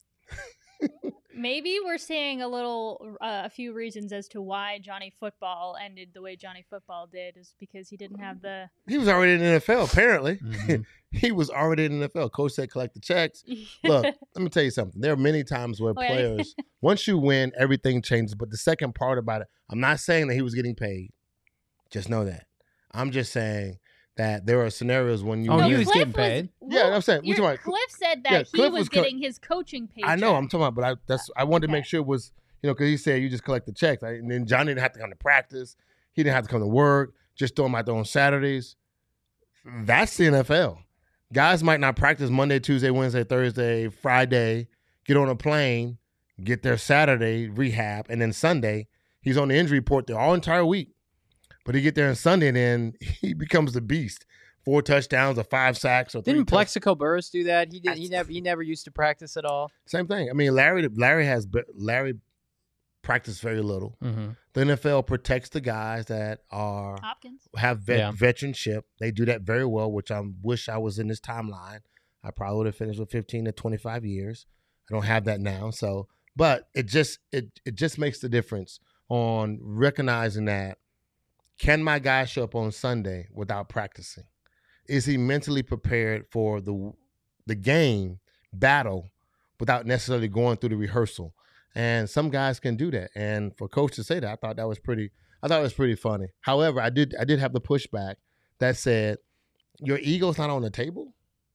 Maybe we're seeing a little, uh, a few reasons as to why Johnny Football ended the way Johnny Football did is because he didn't have the. He was already in the N F L, apparently. Mhm. He was already in the N F L. Coach said collect the checks. Look, let me tell you something. There are many times where Okay. players, once you win, everything changes. But the second part about it, I'm not saying that he was getting paid. Just know that. I'm just saying that there are scenarios when you Oh, No, he win. was Cliff getting paid. well, Yeah, I'm saying- we you're- talking about- Cliff said that Yeah, he Cliff was, was co- getting his coaching paycheck. I know. I'm talking about, but I, that's I wanted to make Okay. sure it was, you know, because he said you just collect the checks. Right? And then Johnny didn't have to come to practice. He didn't have to come to work. Just throw him out there on Saturdays. That's the N F L. Guys might not practice Monday, Tuesday, Wednesday, Thursday, Friday, get on a plane, get there Saturday, rehab, and then Sunday, he's on the injury report the all entire week. But he get there on Sunday, and then he becomes the beast. Four touchdowns or five sacks or three Didn't touch- Plexico Burris do that? He did. He That's- never. He never used to practice at all. Same thing. I mean, Larry Larry has Larry practiced very little. Mm-hmm. The N F L protects the guys that are Hopkins. have vet, Yeah. veteranship. They do that very well, which I wish I was in this timeline. I probably would have finished with fifteen to twenty-five years. I don't have that now. So, but it just it it just makes the difference on recognizing that can my guy show up on Sunday without practicing? Is he mentally prepared for the the game battle without necessarily going through the rehearsal? And some guys can do that. And for coach to say that, I thought that was pretty. I thought it was pretty funny. However, I did I did have the pushback that said, "Your ego's not on the table."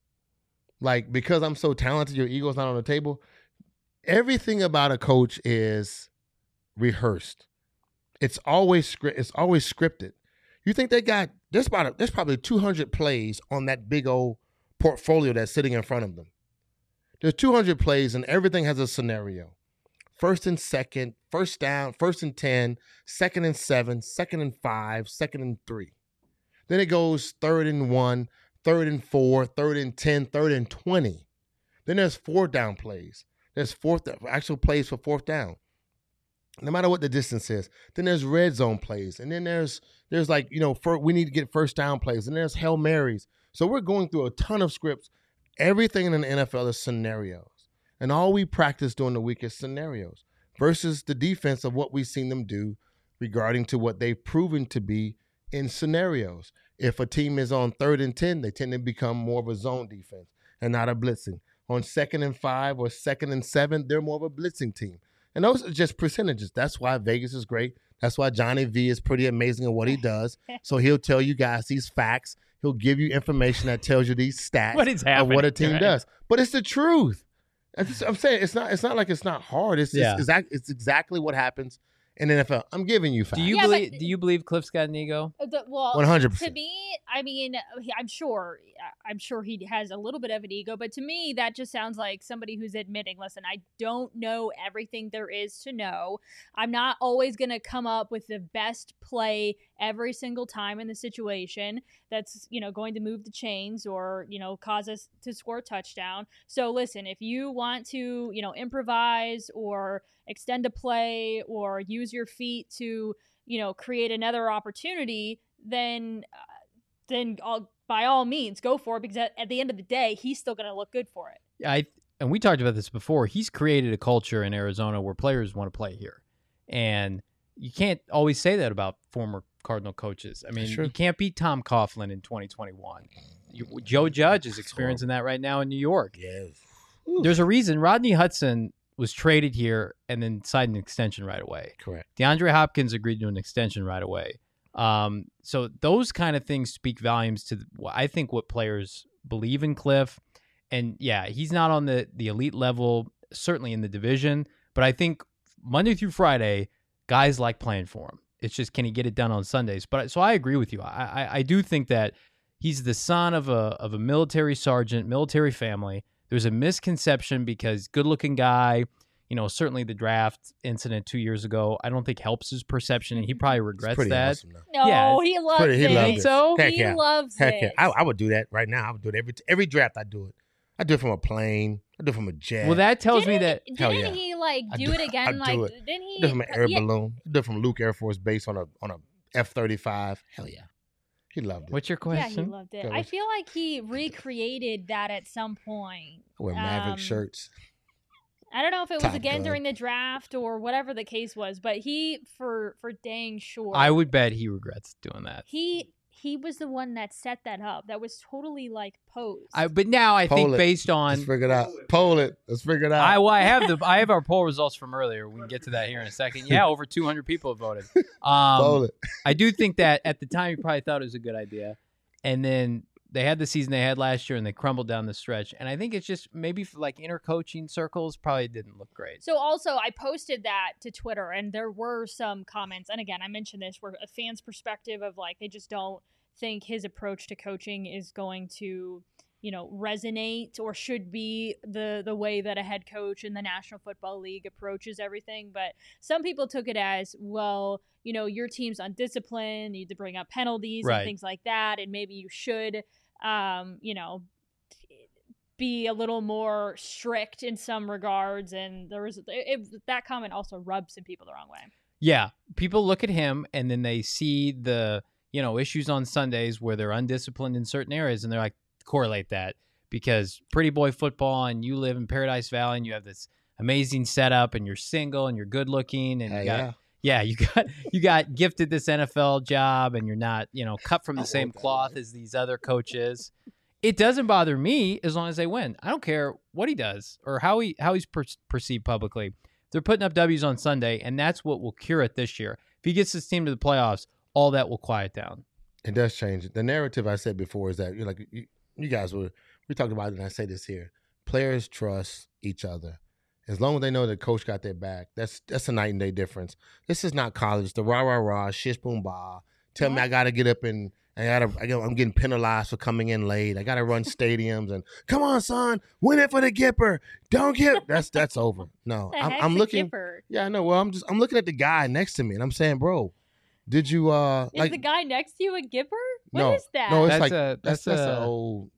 Like, because I'm so talented, your ego's not on the table. Everything about a coach is rehearsed. It's always script. It's always scripted. You think they got there's about a, there's probably two hundred plays on that big old portfolio that's sitting in front of them. There's two hundred plays and everything has a scenario. First and second, first down, first and ten, second and seven, second and five, second and three. Then it goes third and one, third and four, third and ten, third and twenty. Then there's fourth down plays. There's fourth actual plays for fourth down. no matter what the distance is. Then there's red zone plays, and then there's there's like you know for, we need to get first down plays, and there's Hail Marys. So we're going through a ton of scripts. Everything in the N F L is scenarios, and all we practice during the week is scenarios versus the defense of what we've seen them do regarding to what they've proven to be in scenarios. If a team is on third and ten, they tend to become more of a zone defense and not a blitzing. On second and five or second and seven, they're more of a blitzing team. And those are just percentages. That's why Vegas is great. That's why Johnny V is pretty amazing at what he does. So he'll tell you guys these facts. He'll give you information that tells you these stats what is of what a team right? does. But it's the truth. I'm saying it's not. It's not like it's not hard. It's yeah. just exact. It's exactly what happens in the N F L. I'm giving you facts. Do you Yeah, believe? but- Do you believe Cliff's got an ego? The, well, one hundred to percent. me, I mean, I'm sure, I'm sure he has a little bit of an ego, but to me, that just sounds like somebody who's admitting, listen, I don't know everything there is to know. I'm not always going to come up with the best play every single time in the situation that's, you know, going to move the chains or, you know, cause us to score a touchdown. So listen, if you want to, you know, improvise or extend a play or use your feet to, you know, create another opportunity, then uh, then I'll, by all means go for it, because at, at the end of the day, he's still going to look good for it. I and we talked about this before. He's created a culture in Arizona where players want to play here, and you can't always say that about former Cardinal coaches. I mean, Sure. you can't beat Tom Coughlin in twenty twenty-one. You, Joe Judge is experiencing that right now in New York. Yes. There's a reason Rodney Hudson was traded here and then signed an extension right away. Correct. DeAndre Hopkins agreed to an extension right away. Um, so those kind of things speak volumes to, the, I think, what players believe in Cliff. And yeah, he's not on the, the elite level, certainly in the division, but I think Monday through Friday, guys like playing for him. It's just, can he get it done on Sundays? But so I agree with you. I, I, I do think that he's the son of a of a military sergeant, military family. There's a misconception because good-looking guy, you know, certainly the draft incident two years ago, I don't think helps his perception, and he probably regrets pretty that. awesome, though. No, Yeah, he loves pretty- he it. loved Think it. so? Heck He yeah. loves Heck it. yeah. I, I would do that right now. I would do it every every draft. I do it. I do it from a plane. I do it from a jet. Well, that tells me Didn't that. he, Hell didn't yeah. he like I do, do- it I again? do Like, it. didn't he? I do it from an air yeah, balloon. I do it from Luke Air Force Base on a on a F thirty-five. Hell yeah. He loved it. What's your Yeah, he question? loved it. Go I with- feel like he recreated that at some point. I wear Maverick um, shirts. I don't know if it was Top again Gun. during the draft or whatever the case was, but he, for for dang sure, I would bet he regrets doing that. He he was the one that set that up. That was totally like posed. I, but now I Poll think it. based on Let's figure it out. Poll it. Let's figure it out. I, well, I have the I have our poll results from earlier. We can get to that here in a second. Yeah, over two hundred people have voted. Um, Poll it. I do think that at the time you probably thought it was a good idea, and then they had the season they had last year and they crumbled down the stretch. And I think it's just maybe for like inner coaching circles probably didn't look great. So also, I posted that to Twitter, and there were some comments. And again, I mentioned this, where a fan's perspective of like they just don't think his approach to coaching is going to, you know, resonate or should be the the way that a head coach in the National Football League approaches everything. But some people took it as, well, you know, your team's undisciplined, you need to bring up penalties Right. and things like that, and maybe you should, um, you know, be a little more strict in some regards. And there was it, it, that comment also rubbed some people the wrong way. Yeah, people look at him and then they see the, you know, issues on Sundays where they're undisciplined in certain areas, and they're like, correlate that because pretty boy football and you live in Paradise Valley and you have this amazing setup and you're single and you're good looking and Hell you got, yeah. yeah, you got you got gifted this N F L job and you're not, you know, cut from I the same want that cloth life. as these other coaches. It doesn't bother me as long as they win. I don't care what he does or how he how he's per- perceived publicly. They're putting up W's on Sunday, and that's what will cure it this year. If he gets his team to the playoffs, all that will quiet down. It does change. The narrative I said before is that you're like you, you guys were we talked about it, and I say this here: players trust each other. As long as they know the coach got their back, that's that's a night and day difference. This is not college. The rah rah rah, shish boom bah. Tell me I got to get up and I gotta, I gotta. I'm getting penalized for coming in late. I got to run stadiums and come on, son, win it for the Gipper. Don't get that's that's over. No, The I'm, heck's I'm a looking. Gipper? Yeah, I know. Well, I'm just I'm looking at the guy next to me, and I'm saying, bro, did you uh Is like the guy next to you a Gipper? What no is that? no it's That's like a- that's that's that's an a- old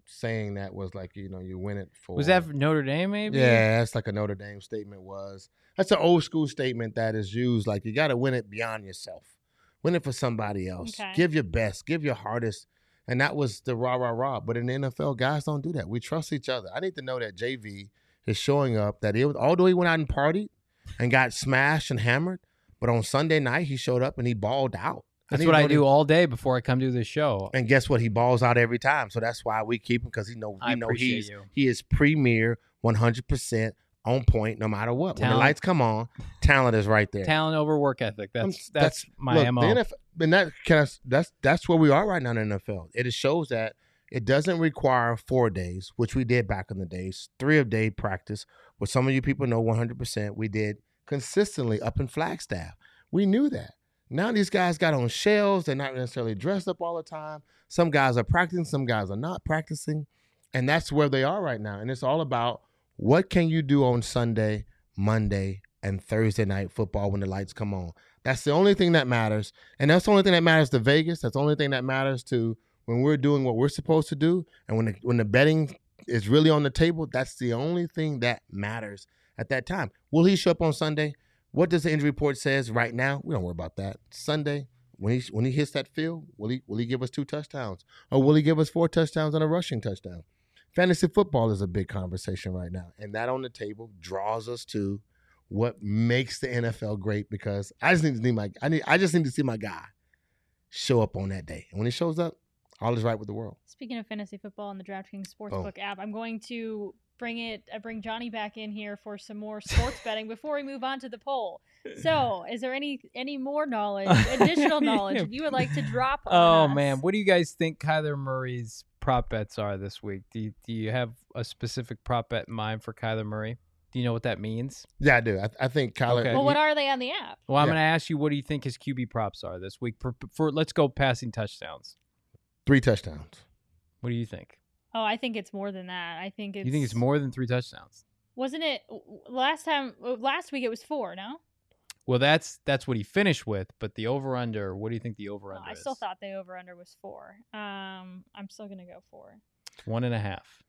saying that was like, you know, you win it for. Was that for Notre Dame, maybe? Yeah, that's like a Notre Dame statement was. That's an old school statement that is used. Like, you got to win it beyond yourself. Win it for somebody else. Okay. Give your best. Give your hardest. And that was the rah, rah, rah. But in the N F L, guys don't do that. We trust each other. I need to know that J V is showing up, that it was, although he went out and partied and got smashed and hammered, but on Sunday night, he showed up and he balled out. That's need what to I know do that- all day before I come do this show. And guess what? He balls out every time. So that's why we keep him, because he know we I know appreciate he's you. he is premier, one hundred percent on point, no matter what. When Talent. the lights come on, talent is right there. Talent over work ethic. That's Um, that's, my look, M O. The N F L, and that can I, that's that's where we are right now in the N F L. It shows that it doesn't require four days, which we did back in the days. Three of day practice, what some of you people know, one hundred percent. We did consistently up in Flagstaff. We knew that. Now these guys got on shells. They're not necessarily dressed up all the time. Some guys are practicing. Some guys are not practicing. And that's where they are right now. And it's all about what can you do on Sunday, Monday, and Thursday night football when the lights come on. That's the only thing that matters. And that's the only thing that matters to Vegas. That's the only thing that matters to when we're doing what we're supposed to do. And when the, when the betting is really on the table, that's the only thing that matters at that time. Will he show up on Sunday? What does the injury report says right now? We don't worry about that. Sunday, when he when he hits that field, will he will he give us two touchdowns? Or will he give us four touchdowns and a rushing touchdown? Fantasy football is a big conversation right now. And that on the table draws us to what makes the N F L great, because I just need to see my I need I just need to see my guy show up on that day. And when he shows up, all is right with the world. Speaking of fantasy football and the DraftKings Sportsbook Oh. app, I'm going to bring it, uh, bring Johnny back in here for some more sports betting before we move on to the poll. So, is there any any more knowledge, additional knowledge that you would like to drop on Oh us? man, what do you guys think Kyler Murray's prop bets are this week? Do you, do you have a specific prop bet in mind for Kyler Murray? Do you know what that means? Yeah, I do. I, I think Kyler. Okay. Well, what are they on the app? Well, I'm Yeah. going to ask you, what do you think his Q B props are this week? For, for let's go passing touchdowns. three touchdowns. What do you think? Oh, I think it's more than that. I think it's. You think it's more than three touchdowns? Wasn't it last time? Last week it was four. No, Well, that's that's what he finished with, but the over under. What do you think the over well, under I is? still thought the over under was four. Um, I'm still gonna go four. One and a half.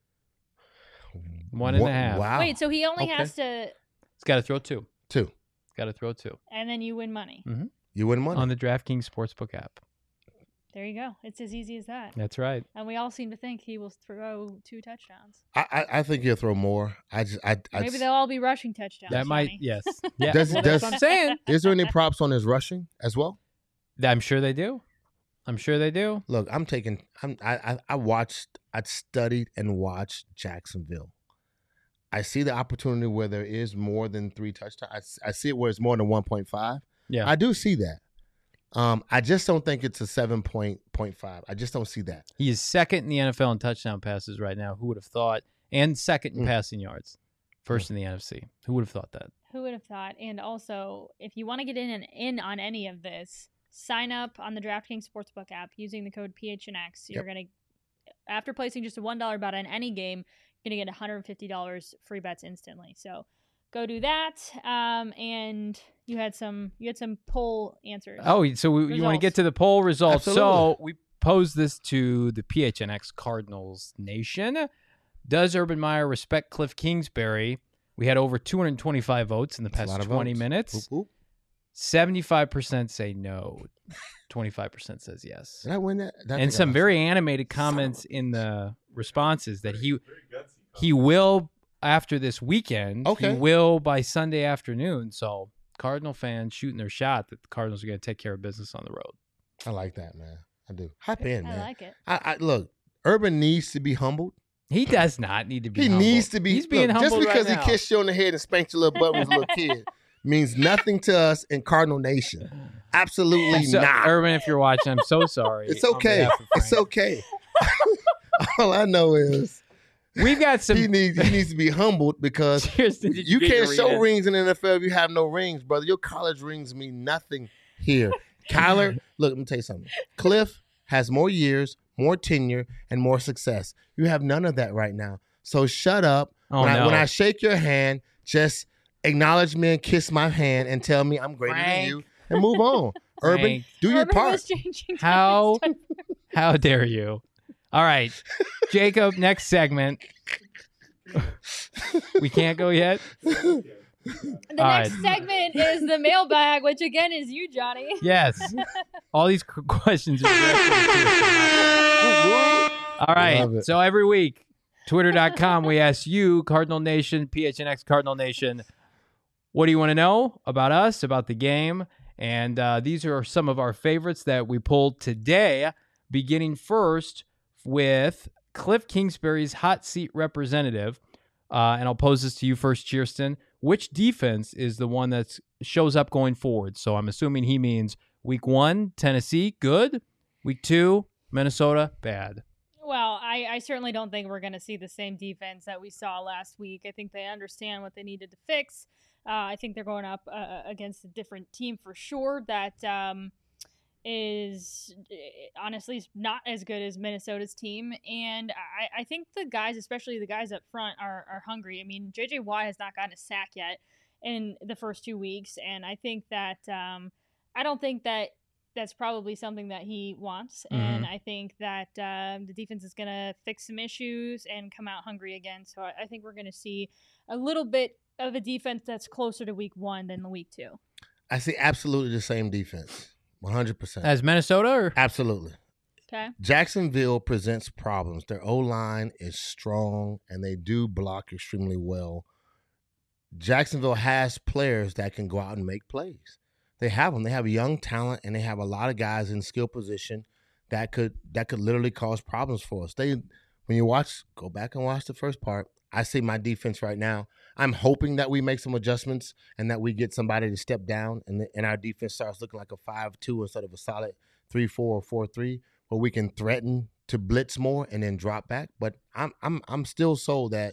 One and a What- half. Wow. Wait, so he only Okay. has to, He's got to throw two. Two. He's got to throw two and then you win money. You win money. on the DraftKings Sportsbook app. There you go. It's as easy as that. That's right. And we all seem to think he will throw two touchdowns. I, I I think he'll throw more. I just I, I Maybe they'll all be rushing touchdowns. That might, Johnny. yes. Yeah, Does- well, does- that's what I'm saying. Is there any props on his rushing as well? I'm sure they do. I'm sure they do. Look, I'm taking. I'm. I. I, I watched. I studied and watched Jacksonville. I see the opportunity where there is more than three touchdowns. I, s- I see it where it's more than one point five. Yeah. I do see that. Um, I just don't think it's a seven point point five. I just don't see that. He is second in the N F L in touchdown passes right now. Who would have thought? And second in Mm. passing yards. First in the N F C. Who would have thought that? Who would have thought? And also, if you want to get in and in on any of this, sign up on the DraftKings Sportsbook app using the code P H N X. You're Yep. gonna, after placing just a one dollar bet on any game, you're gonna get one hundred fifty dollars free bets instantly. So go do that. Um, and you had some you had some poll answers. Oh, so we, you want to get to the poll results. So Absolutely. we posed this to the P H N X Cardinals Nation. Does Urban Meyer respect Cliff Kingsbury? We had over two hundred twenty-five votes in the That's a past lot of twenty votes. minutes. Whoop, whoop. seventy-five percent say no. twenty-five percent says yes. Did I win that? I And think I some lost. very animated comments in the responses that he he will after this weekend. Okay. He will by Sunday afternoon. So Cardinal fans shooting their shot that the Cardinals are going to take care of business on the road. I like that, man. I do. Hop in, I man. like it. I, I look. Urban needs to be humbled. He does not need to be. He humbled. needs to be. He's being look, humbled just because right he now. kissed you on the head and spanked your little butt when you was a little kid means nothing to us in Cardinal Nation. Absolutely So, not. Urban, if you're watching, I'm so sorry. It's on okay. behalf of It's Frank. okay. All I know is We've got some. he needs he needs to be humbled because Cheers, did you get can't your show read? rings in the N F L if you have no rings, brother. Your college rings mean nothing here. Kyler, look, let me tell you something. Cliff has more years, more tenure, and more success. You have none of that right now. So shut up. Oh, when, I, no. when I shake your hand, just acknowledge me and kiss my hand and tell me I'm greater Frank. than you and move on. Urban, Frank. do your Urban part. was changing How- topics. How dare you? All right, Jacob, next segment. We can't go yet? The All next right. segment is the mailbag, which again is you, Johnny. Yes. All these qu- questions are directed at you. All right. Love it. So every week, twitter dot com, we ask you, Cardinal Nation, P H N X Cardinal Nation, what do you want to know about us, about the game? And uh, these are some of our favorites that we pulled today, beginning first with Cliff Kingsbury's hot seat representative. Uh, and I'll pose this to you first, Kirsten. Which defense is the one that shows up going forward? So I'm assuming he means week one, Tennessee, good. Week two, Minnesota, bad. Well, I, I certainly don't think we're going to see the same defense that we saw last week. I think they understand what they needed to fix. Uh, I think they're going up uh, against a different team for sure that um, is honestly not as good as Minnesota's team. And I, I think the guys, especially the guys up front, are, are hungry. I mean, J J Watt has not gotten a sack yet in the first two weeks. And I think that um, I don't think that that's probably something that he wants. Mm-hmm. And I think that um, the defense is going to fix some issues and come out hungry again. So I, I think we're going to see a little bit of a defense that's closer to week one than the week two. I see absolutely the same defense, one hundred percent. As Minnesota? Or? Absolutely. Okay. Jacksonville presents problems. Their O-line is strong, and they do block extremely well. Jacksonville has players that can go out and make plays. They have them. They have young talent, and they have a lot of guys in skill position that could that could literally cause problems for us. They, when you watch, go back and watch the first part. I see my defense right now. I'm hoping that we make some adjustments and that we get somebody to step down, and, the, and our defense starts looking like a five two instead of a solid three four or four three, where we can threaten to blitz more and then drop back. But I'm I'm I'm still sold that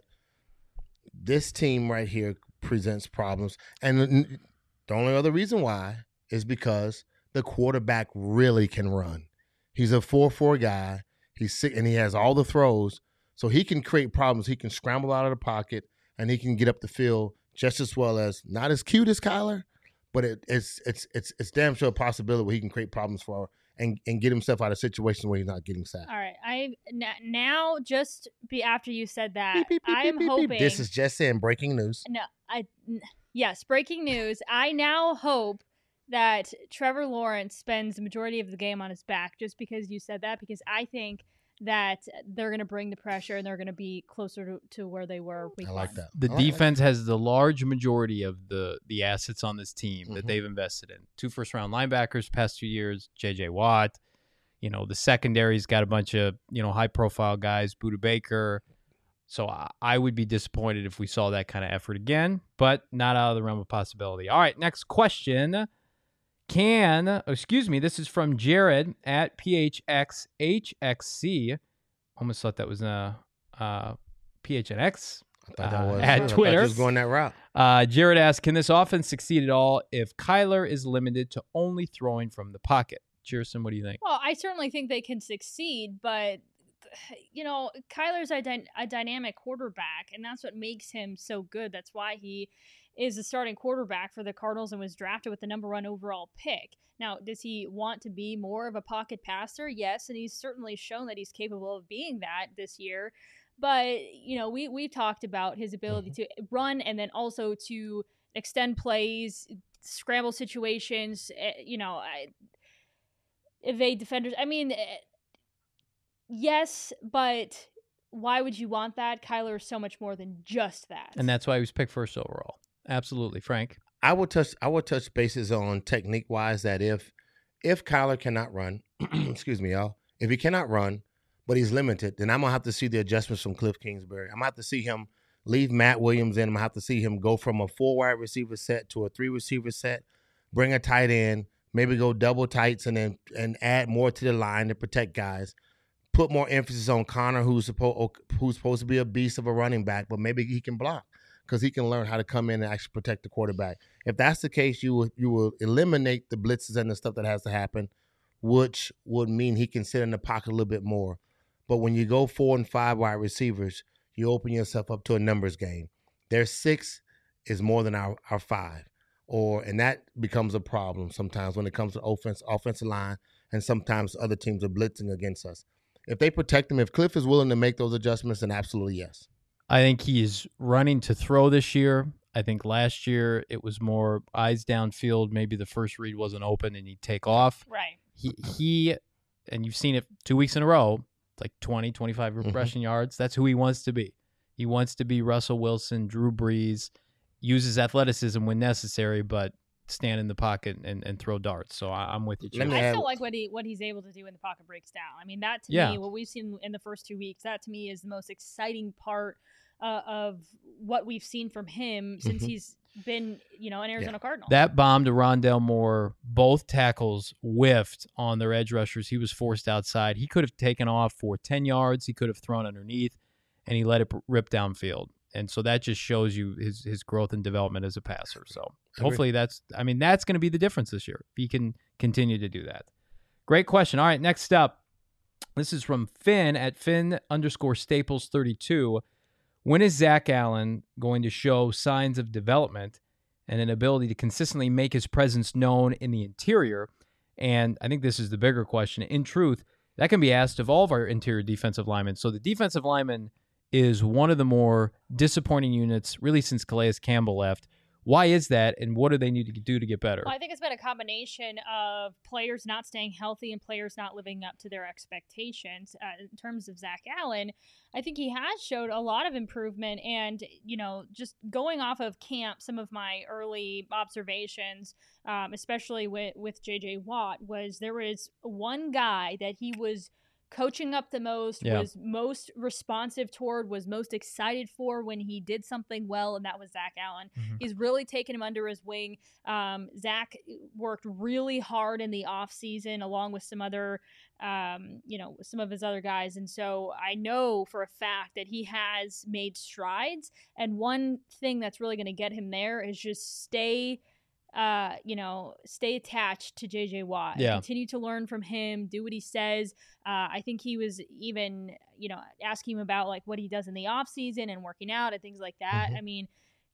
this team right here presents problems, and the only other reason why is because the quarterback really can run. He's a four four guy. He's sick, and he has all the throws. So he can create problems. He can scramble out of the pocket, and he can get up the field just as well as, not as cute as Kyler, but it, it's it's it's it's damn sure a possibility where he can create problems for and, and get himself out of situations where he's not getting sacked. All right. I n- now just be after you said that, Beep, beep, beep, I beep, am beep, hoping. beep. This is just saying breaking news. No, I n- yes, breaking news. I now hope that Trevor Lawrence spends the majority of the game on his back, just because you said that, because I think that they're going to bring the pressure and they're going to be closer to, to where they were week I like one. that. The I like defense has the large majority of the the assets on this team that Mhm. they've invested in. Two first round linebackers past two years, J J Watt. You know, the secondary's got a bunch of, you know, high profile guys, Budda Baker. So I, I would be disappointed if we saw that kind of effort again, but not out of the realm of possibility. All right, next question. Can, oh, excuse me, this is from Jared at P H X H X C. Almost thought that was a uh, uh, P H N X. I thought that Uh, was, at I thought you Twitter. was going that route. Uh, Jared asks, can this offense succeed at all if Kyler is limited to only throwing from the pocket? Cheerson, what do you think? Well, I certainly think they can succeed, but you know, Kyler's a, dy- a dynamic quarterback, and that's what makes him so good. That's why he is the starting quarterback for the Cardinals and was drafted with the number one overall pick. Now, does he want to be more of a pocket passer? Yes, and he's certainly shown that he's capable of being that this year. But, you know, we, we've talked about his ability to run and then also to extend plays, scramble situations, eh, you know, I, evade defenders. I mean, eh, yes, but why would you want that? Kyler is so much more than just that. And that's why he was picked first overall. Absolutely, Frank. I would touch I would touch bases on technique wise that if if Kyler cannot run, excuse me, y'all, if he cannot run, but he's limited, then I'm gonna have to see the adjustments from Cliff Kingsbury. I'm gonna have to see him leave Matt Williams in. I'm gonna have to see him go from a four wide receiver set to a three receiver set, bring a tight end, maybe go double tights and then and add more to the line to protect guys. Put more emphasis on Connor, who's supposed who's supposed to be a beast of a running back, but maybe he can block because he can learn how to come in and actually protect the quarterback. If that's the case, you will you will eliminate the blitzes and the stuff that has to happen, which would mean he can sit in the pocket a little bit more. But when you go four and five wide receivers, you open yourself up to a numbers game. Their six is more than our, our five, or and that becomes a problem sometimes when it comes to offense, offensive line, and sometimes other teams are blitzing against us. if they protect him, if Cliff is willing to make those adjustments, then absolutely yes. I think he's running to throw this year. I think last year it was more eyes downfield. Maybe the first read wasn't open and he'd take off. Right. He, he and you've seen it two weeks in a row, it's like twenty, twenty-five mm-hmm. rushing yards. That's who he wants to be. He wants to be Russell Wilson, Drew Brees, uses athleticism when necessary, but stand in the pocket and, and throw darts. So I, I'm with you, Chip. I still like what he what he's able to do when the pocket breaks down. I mean, that to yeah. me, what we've seen in the first two weeks, that to me is the most exciting part uh, of what we've seen from him since Mhm. he's been, you know, an Arizona Yeah. Cardinal. That bomb to Rondale Moore, both tackles whiffed on their edge rushers. He was forced outside. He could have taken off for ten yards. He could have thrown underneath, and he let it rip downfield. And so that just shows you his his growth and development as a passer. So hopefully that's, I mean, that's going to be the difference this year. If he can continue to do that. Great question. All right, next up. This is from Finn at Finn underscore Staples thirty-two. When is Zach Allen going to show signs of development and an ability to consistently make his presence known in the interior? And I think this is the bigger question. In truth, that can be asked of all of our interior defensive linemen. So the defensive lineman is one of the more disappointing units, really, since Calais Campbell left. Why is that, and what do they need to do to get better? Well, I think it's been a combination of players not staying healthy and players not living up to their expectations. Uh, in terms of Zach Allen, I think he has showed a lot of improvement. And, you know, just going off of camp, some of my early observations, um, especially with, with J J Watt, was there was one guy that he was coaching up the most, yeah. was most responsive toward, was most excited for when he did something well, and that was Zach Allen. Mm-hmm. He's really taken him under his wing. Um, Zach worked really hard in the offseason along with some other, um, you know, some of his other guys. And so I know for a fact that he has made strides. And one thing that's really going to get him there is just stay Uh, you know, stay attached to J J Watt. Yeah. Continue to learn from him, do what he says. Uh, I think he was even, you know, asking him about like what he does in the off season and working out and things like that. Mhm. I mean,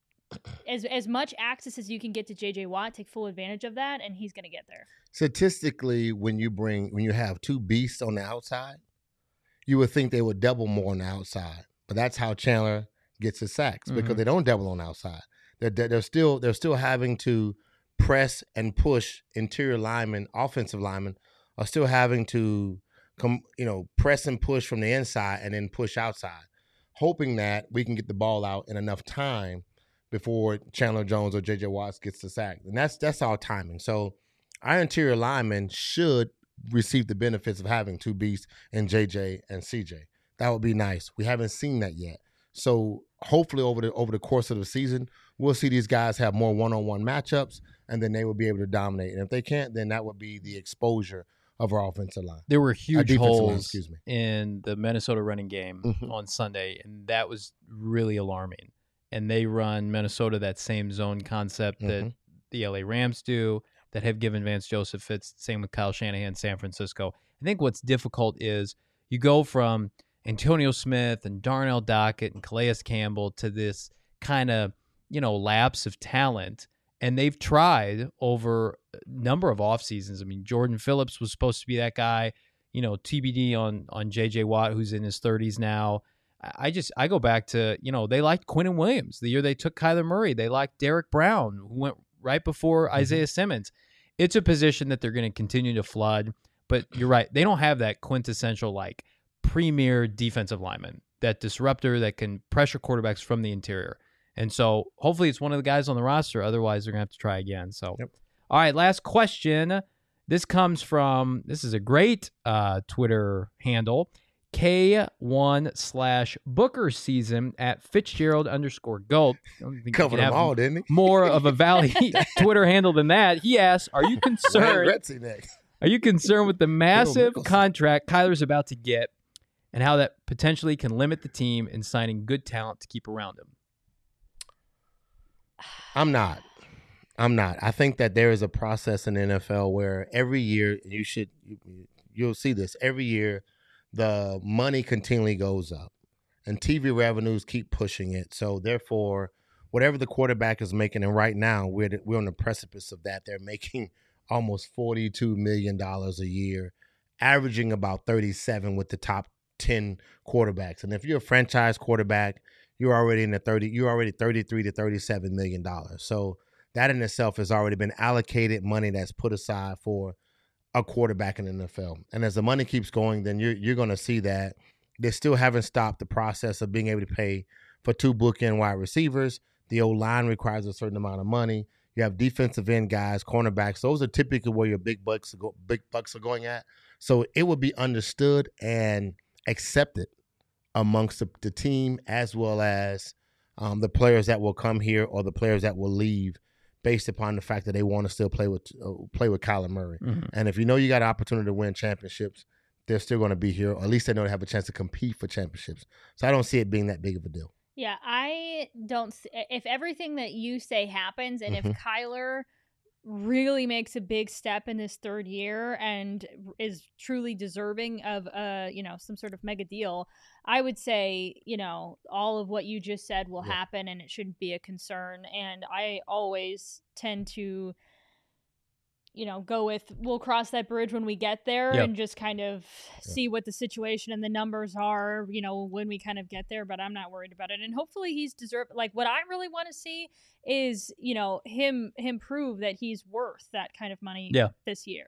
as as much access as you can get to J J Watt, take full advantage of that, and he's going to get there. Statistically, when you bring when you have two beasts on the outside, you would think they would double more on the outside. But that's how Chandler gets his sacks Mhm. because they don't double on the outside. They're they're still they're still having to press and push interior linemen, offensive linemen are still having to come, you know, press and push from the inside and then push outside, hoping that we can get the ball out in enough time before Chandler Jones or J J Watts gets the sack. And that's that's all timing. So our interior linemen should receive the benefits of having two beasts in J J and C J. That would be nice. We haven't seen that yet. So hopefully over the over the course of the season, we'll see these guys have more one-on-one matchups, and then they will be able to dominate. And if they can't, then that would be the exposure of our offensive line. There were huge defensive line, holes excuse me. in the Minnesota running game Mhm. on Sunday, and that was really alarming. And they run Minnesota that same zone concept that Mhm. the L A Rams do, that have given Vance Joseph fits. Same with Kyle Shanahan, San Francisco. I think what's difficult is you go from Antonio Smith and Darnell Dockett and Calais Campbell to this kind of, you know, lapse of talent. And they've tried over a number of off seasons. I mean, Jordan Phillips was supposed to be that guy, you know, T B D on on J J Watt, who's in his thirties now. I just, I go back to, you know, they liked Quinnen Williams the year they took Kyler Murray. They liked Derek Brown, who went right before mm-hmm. Isaiah Simmons. It's a position that they're going to continue to flood. But you're right. They don't have that quintessential, like, premier defensive lineman, that disruptor that can pressure quarterbacks from the interior. And so hopefully it's one of the guys on the roster. Otherwise, they're going to have to try again. So, yep. All right, last question. This comes from, this is a great uh, Twitter handle, K one slash Booker season at Fitzgerald underscore Gold. Covered them all, didn't he? More of a Valley Twitter handle than that. He asks, are you concerned? Are you concerned with the massive contract Kyler's about to get and how that potentially can limit the team in signing good talent to keep around him? I'm not. I'm not. I think that there is a process in the N F L where every year you should, you'll see this every year, the money continually goes up and T V revenues keep pushing it. So therefore, whatever the quarterback is making, and right now we're we're on the precipice of that. They're making almost forty-two million dollars a year averaging about thirty-seven with the top ten quarterbacks. And if you're a franchise quarterback, you're already in the thirty, you're already thirty-three to thirty-seven million dollars. So that in itself has already been allocated money that's put aside for a quarterback in the N F L. And as the money keeps going, then you're you're going to see that they still haven't stopped the process of being able to pay for two bookend wide receivers. The O-line requires a certain amount of money. You have defensive end guys, cornerbacks. Those are typically where your big bucks are go, big bucks are going at. So it would be understood and accepted amongst the, the team as well as um, the players that will come here or the players that will leave, based upon the fact that they want to still play with uh, play with Kyler Murray. Mm-hmm. And if you know you got an opportunity to win championships, they're still going to be here, or at least they know they have a chance to compete for championships. So I don't see it being that big of a deal. Yeah, I don't – if everything that you say happens and mm-hmm. if Kyler really makes a big step in this third year and is truly deserving of, uh, you know, some sort of mega deal, I would say, you know, all of what you just said will yeah. happen and it shouldn't be a concern. And I always tend to – you know, go with, we'll cross that bridge when we get there yep. and just kind of yep. see what the situation and the numbers are, you know, when we kind of get there, but I'm not worried about it. And hopefully he's deserved, like what I really want to see is, you know, him, him prove that he's worth that kind of money yeah. this year.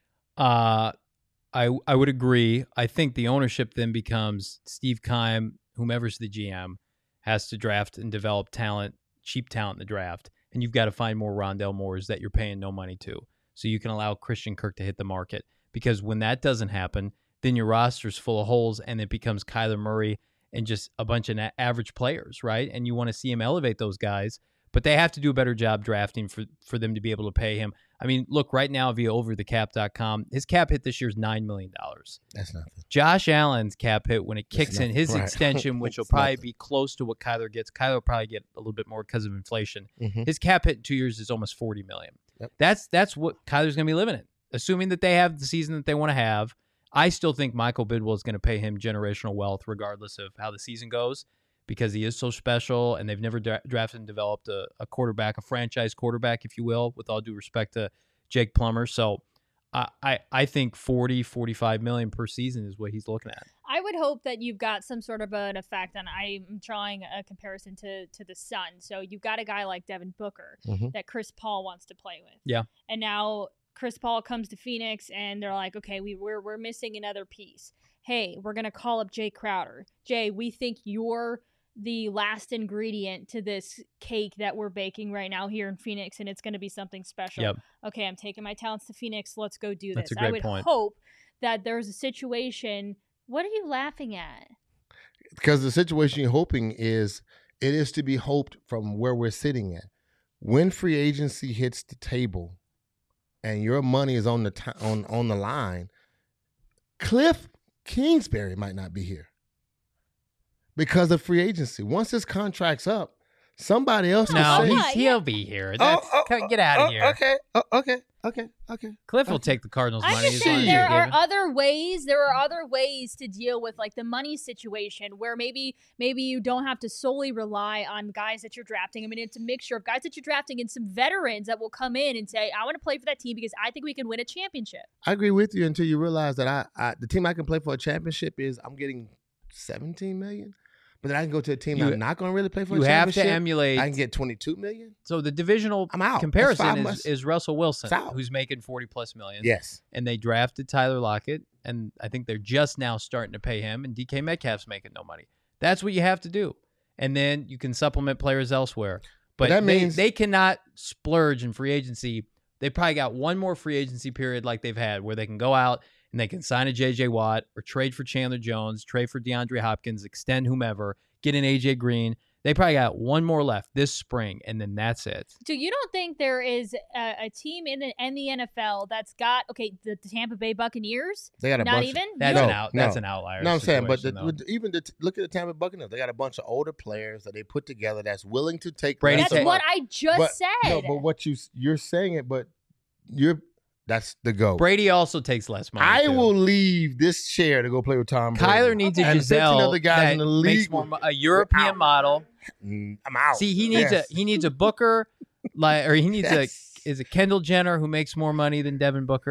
Uh, I, I would agree. I think the ownership then becomes Steve Keim, whomever's the G M, has to draft and develop talent, cheap talent in the draft. And you've got to find more Rondale Moores that you're paying no money to, so you can allow Christian Kirk to hit the market. Because when that doesn't happen, then your roster's full of holes and it becomes Kyler Murray and just a bunch of average players, right? And you want to see him elevate those guys, but they have to do a better job drafting for, for them to be able to pay him. I mean, look, right now via over the cap dot com, his cap hit this year is nine million dollars. That's nothing. Josh Allen's cap hit when it kicks in his right. extension, which will probably nothing. be close to what Kyler gets. Kyler will probably get a little bit more because of inflation. Mm-hmm. His cap hit in two years is almost forty million dollars. Yep. That's that's what Kyler's going to be living in, assuming that they have the season that they want to have. I still think Michael Bidwell is going to pay him generational wealth regardless of how the season goes, because he is so special, and they've never dra- drafted and developed a, a quarterback, a franchise quarterback, if you will, with all due respect to Jake Plummer. So I, I, I think forty, forty-five million per season is what he's looking at. I would hope that you've got some sort of an effect, and I'm drawing a comparison to, to the Sun. So you've got a guy like Devin Booker mm-hmm. that Chris Paul wants to play with. Yeah. And now Chris Paul comes to Phoenix, and they're like, okay, we, we're, we're missing another piece. Hey, we're going to call up Jay Crowder. Jay, we think you're the last ingredient to this cake that we're baking right now here in Phoenix, and it's going to be something special. Yep. Okay, I'm taking my talents to Phoenix. Let's go do That's this. a great I would point. hope that there's a situation. What are you laughing at? Because the situation you're hoping is, it is to be hoped from where we're sitting at. When free agency hits the table and your money is on the t- on, on the line, Cliff Kingsbury might not be here because of free agency. Once his contract's up, somebody else no, will say, he's, he'll be here. That's, oh, oh, get out of oh, here. Okay, oh, okay, okay, okay. Cliff will okay. take the Cardinals' I'm money. just as saying long as there you are give it. other ways. There are other ways to deal with like the money situation where maybe maybe you don't have to solely rely on guys that you're drafting. I mean, it's a mixture of guys that you're drafting and some veterans that will come in and say, I want to play for that team because I think we can win a championship. I agree with you until you realize that I, I the team I can play for a championship is I'm getting seventeen million. But then I can go to a team You- that I'm not going to really play for You a have championship. to emulate. I can get twenty-two million. So the divisional I'm out. That's comparison five is, months. is Russell Wilson, It's out. who's making forty plus million. Yes. And they drafted Tyler Lockett, and I think they're just now starting to pay him, and D K Metcalf's making no money. That's what you have to do. And then you can supplement players elsewhere. But, But that they, means- they cannot splurge in free agency. They probably got one more free agency period like they've had where they can go out and they can sign a J J Watt or trade for Chandler Jones, trade for DeAndre Hopkins, extend whomever, get an A J Green. They probably got one more left this spring, and then that's it. So you don't think there is a, a team in the, in the N F L that's got, okay, the, the Tampa Bay Buccaneers? They got a Not bunch. even? That's No, an out. That's no. an outlier. No, I'm saying, but the, situation, though. with, even the, look at the Tampa Buccaneers. They got a bunch of older players that they put together that's willing to take. Brady less That's of what money. I just But- said. No, but what you you're saying it, but you're that's the go. Brady also takes less money. I too. will leave this chair to go play with Tom Brady. Kyler needs Okay. a And fifteen Giselle other guys that in the makes league more, will- mo- a European out. model. Mm, I'm out. See, he needs Yes. a he needs a Booker, like, or he needs Yes. a is a Kendall Jenner who makes more money than Devin Booker.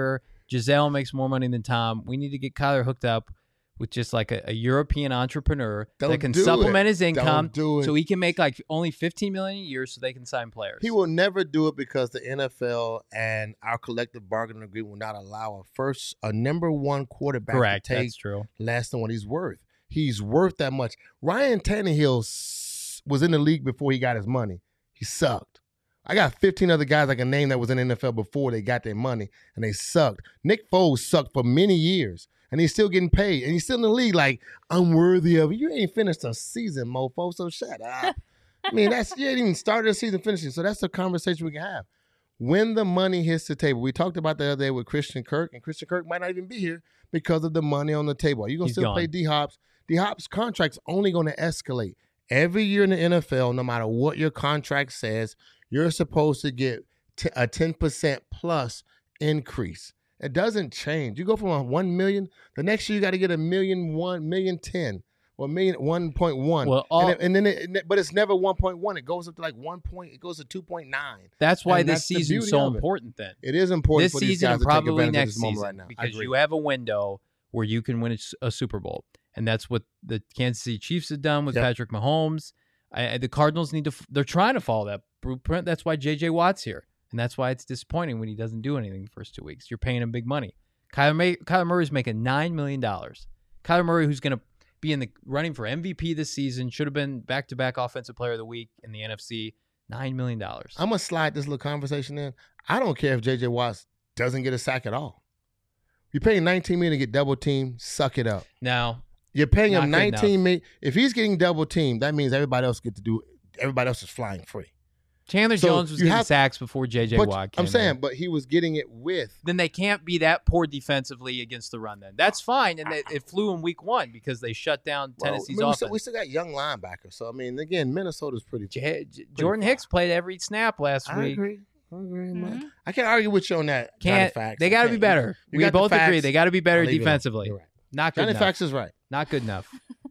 Giselle makes more money than Tom. We need to get Kyler hooked up with just like a, a European entrepreneur Don't that can do supplement it. his income, Don't do it. so he can make like only fifteen million dollars a year, so they can sign players. He will never do it because the N F L and our collective bargaining agreement will not allow a first, a number one quarterback Correct. to take That's true. less than what he's worth. He's worth that much. Ryan Tannehill s- was in the league before he got his money. He sucked. I got fifteen other guys I can name that was in the N F L before they got their money, and they sucked. Nick Foles sucked for many years, and he's still getting paid, and he's still in the league like, I'm worthy of it. You ain't finished a season, mofo, so shut up. I mean, that's you ain't even started the season finishing, so that's the conversation we can have. When the money hits the table, we talked about the other day with Christian Kirk, and Christian Kirk might not even be here because of the money on the table. Are you going to He's still gone. play D-Hop's? D-Hop's contract's only going to escalate. Every year in the N F L, no matter what your contract says, you're supposed to get t- a ten percent plus increase. It doesn't change. You go from a one million, the next year you got to get a million one, million ten, or million one point one. Well, all- and, it- and then, it, and it- but it's never one point one. It goes up to like one point. It goes to two point nine. That's why And this that's the season's beauty so of it. important. Then It is important this for these season guys and to take probably advantage of next this moment season right now. I because agree. you have a window where you can win a, s- a Super Bowl, and that's what the Kansas City Chiefs have done with Yep. Patrick Mahomes. I, I- the Cardinals need to. f- They're trying to follow that blueprint. That's why J J Watt's here, and that's why it's disappointing when he doesn't do anything the first two weeks. You're paying him big money. Kyler, May, Kyler Murray's making nine million dollars. Kyler Murray, who's going to be in the running for M V P this season, should have been back-to-back Offensive Player of the Week in the N F C. Nine million dollars. I'm gonna slide this little conversation in. I don't care if J J Watts doesn't get a sack at all. You're paying nineteen million to get double teamed. Suck it up. Now, You're paying Not him good nineteen million. If he's getting double teamed, that means everybody else get to do. Everybody else is flying free. Chandler So Jones was you getting have- sacks before J J But Watt came I'm saying, in. but he was getting it with. Then they can't be that poor defensively against the run. Then that's fine, and it, it flew in week one because they shut down Well, Tennessee's I mean, we, offense. still, we still got young linebackers. So I mean, again, Minnesota's pretty. J- J- Jordan far. Hicks played every snap last I week. agree. I agree. Mhm. I can't argue with you on that. Johnny Can't Facts. they I got to can't. be better? You We got the both agree facts. they got to be better I'll leave it alone. defensively. You're right. Not good Johnny enough. Facts is right. Not good enough.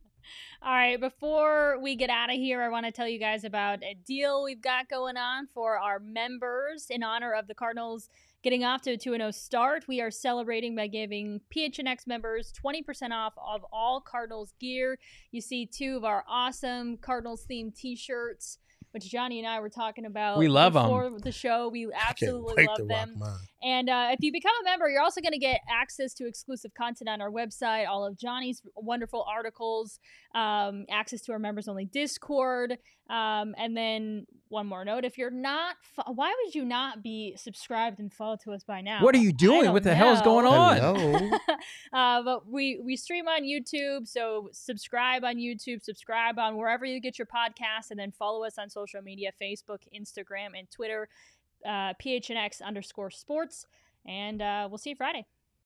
All right, before we get out of here, I want to tell you guys about a deal we've got going on for our members in honor of the Cardinals getting off to a two and oh start. We are celebrating by giving P H N X members twenty percent off of all Cardinals gear. You see two of our awesome Cardinals-themed t-shirts, which Johnny and I were talking about We love 'em. before the show. We I can't absolutely wait love to them. rock mine. And uh, if you become a member, you're also going to get access to exclusive content on our website, all of Johnny's wonderful articles, um, access to our members only Discord. Um, and then one more note, if you're not, fo- why would you not be subscribed and followed to us by now? What are you I doing? don't What the hell is know. going on? Hello. uh, but we, we stream on YouTube, so subscribe on YouTube, subscribe on wherever you get your podcasts, and then follow us on social media, Facebook, Instagram, and Twitter, uh, P H N X underscore sports. And uh, we'll see you Friday.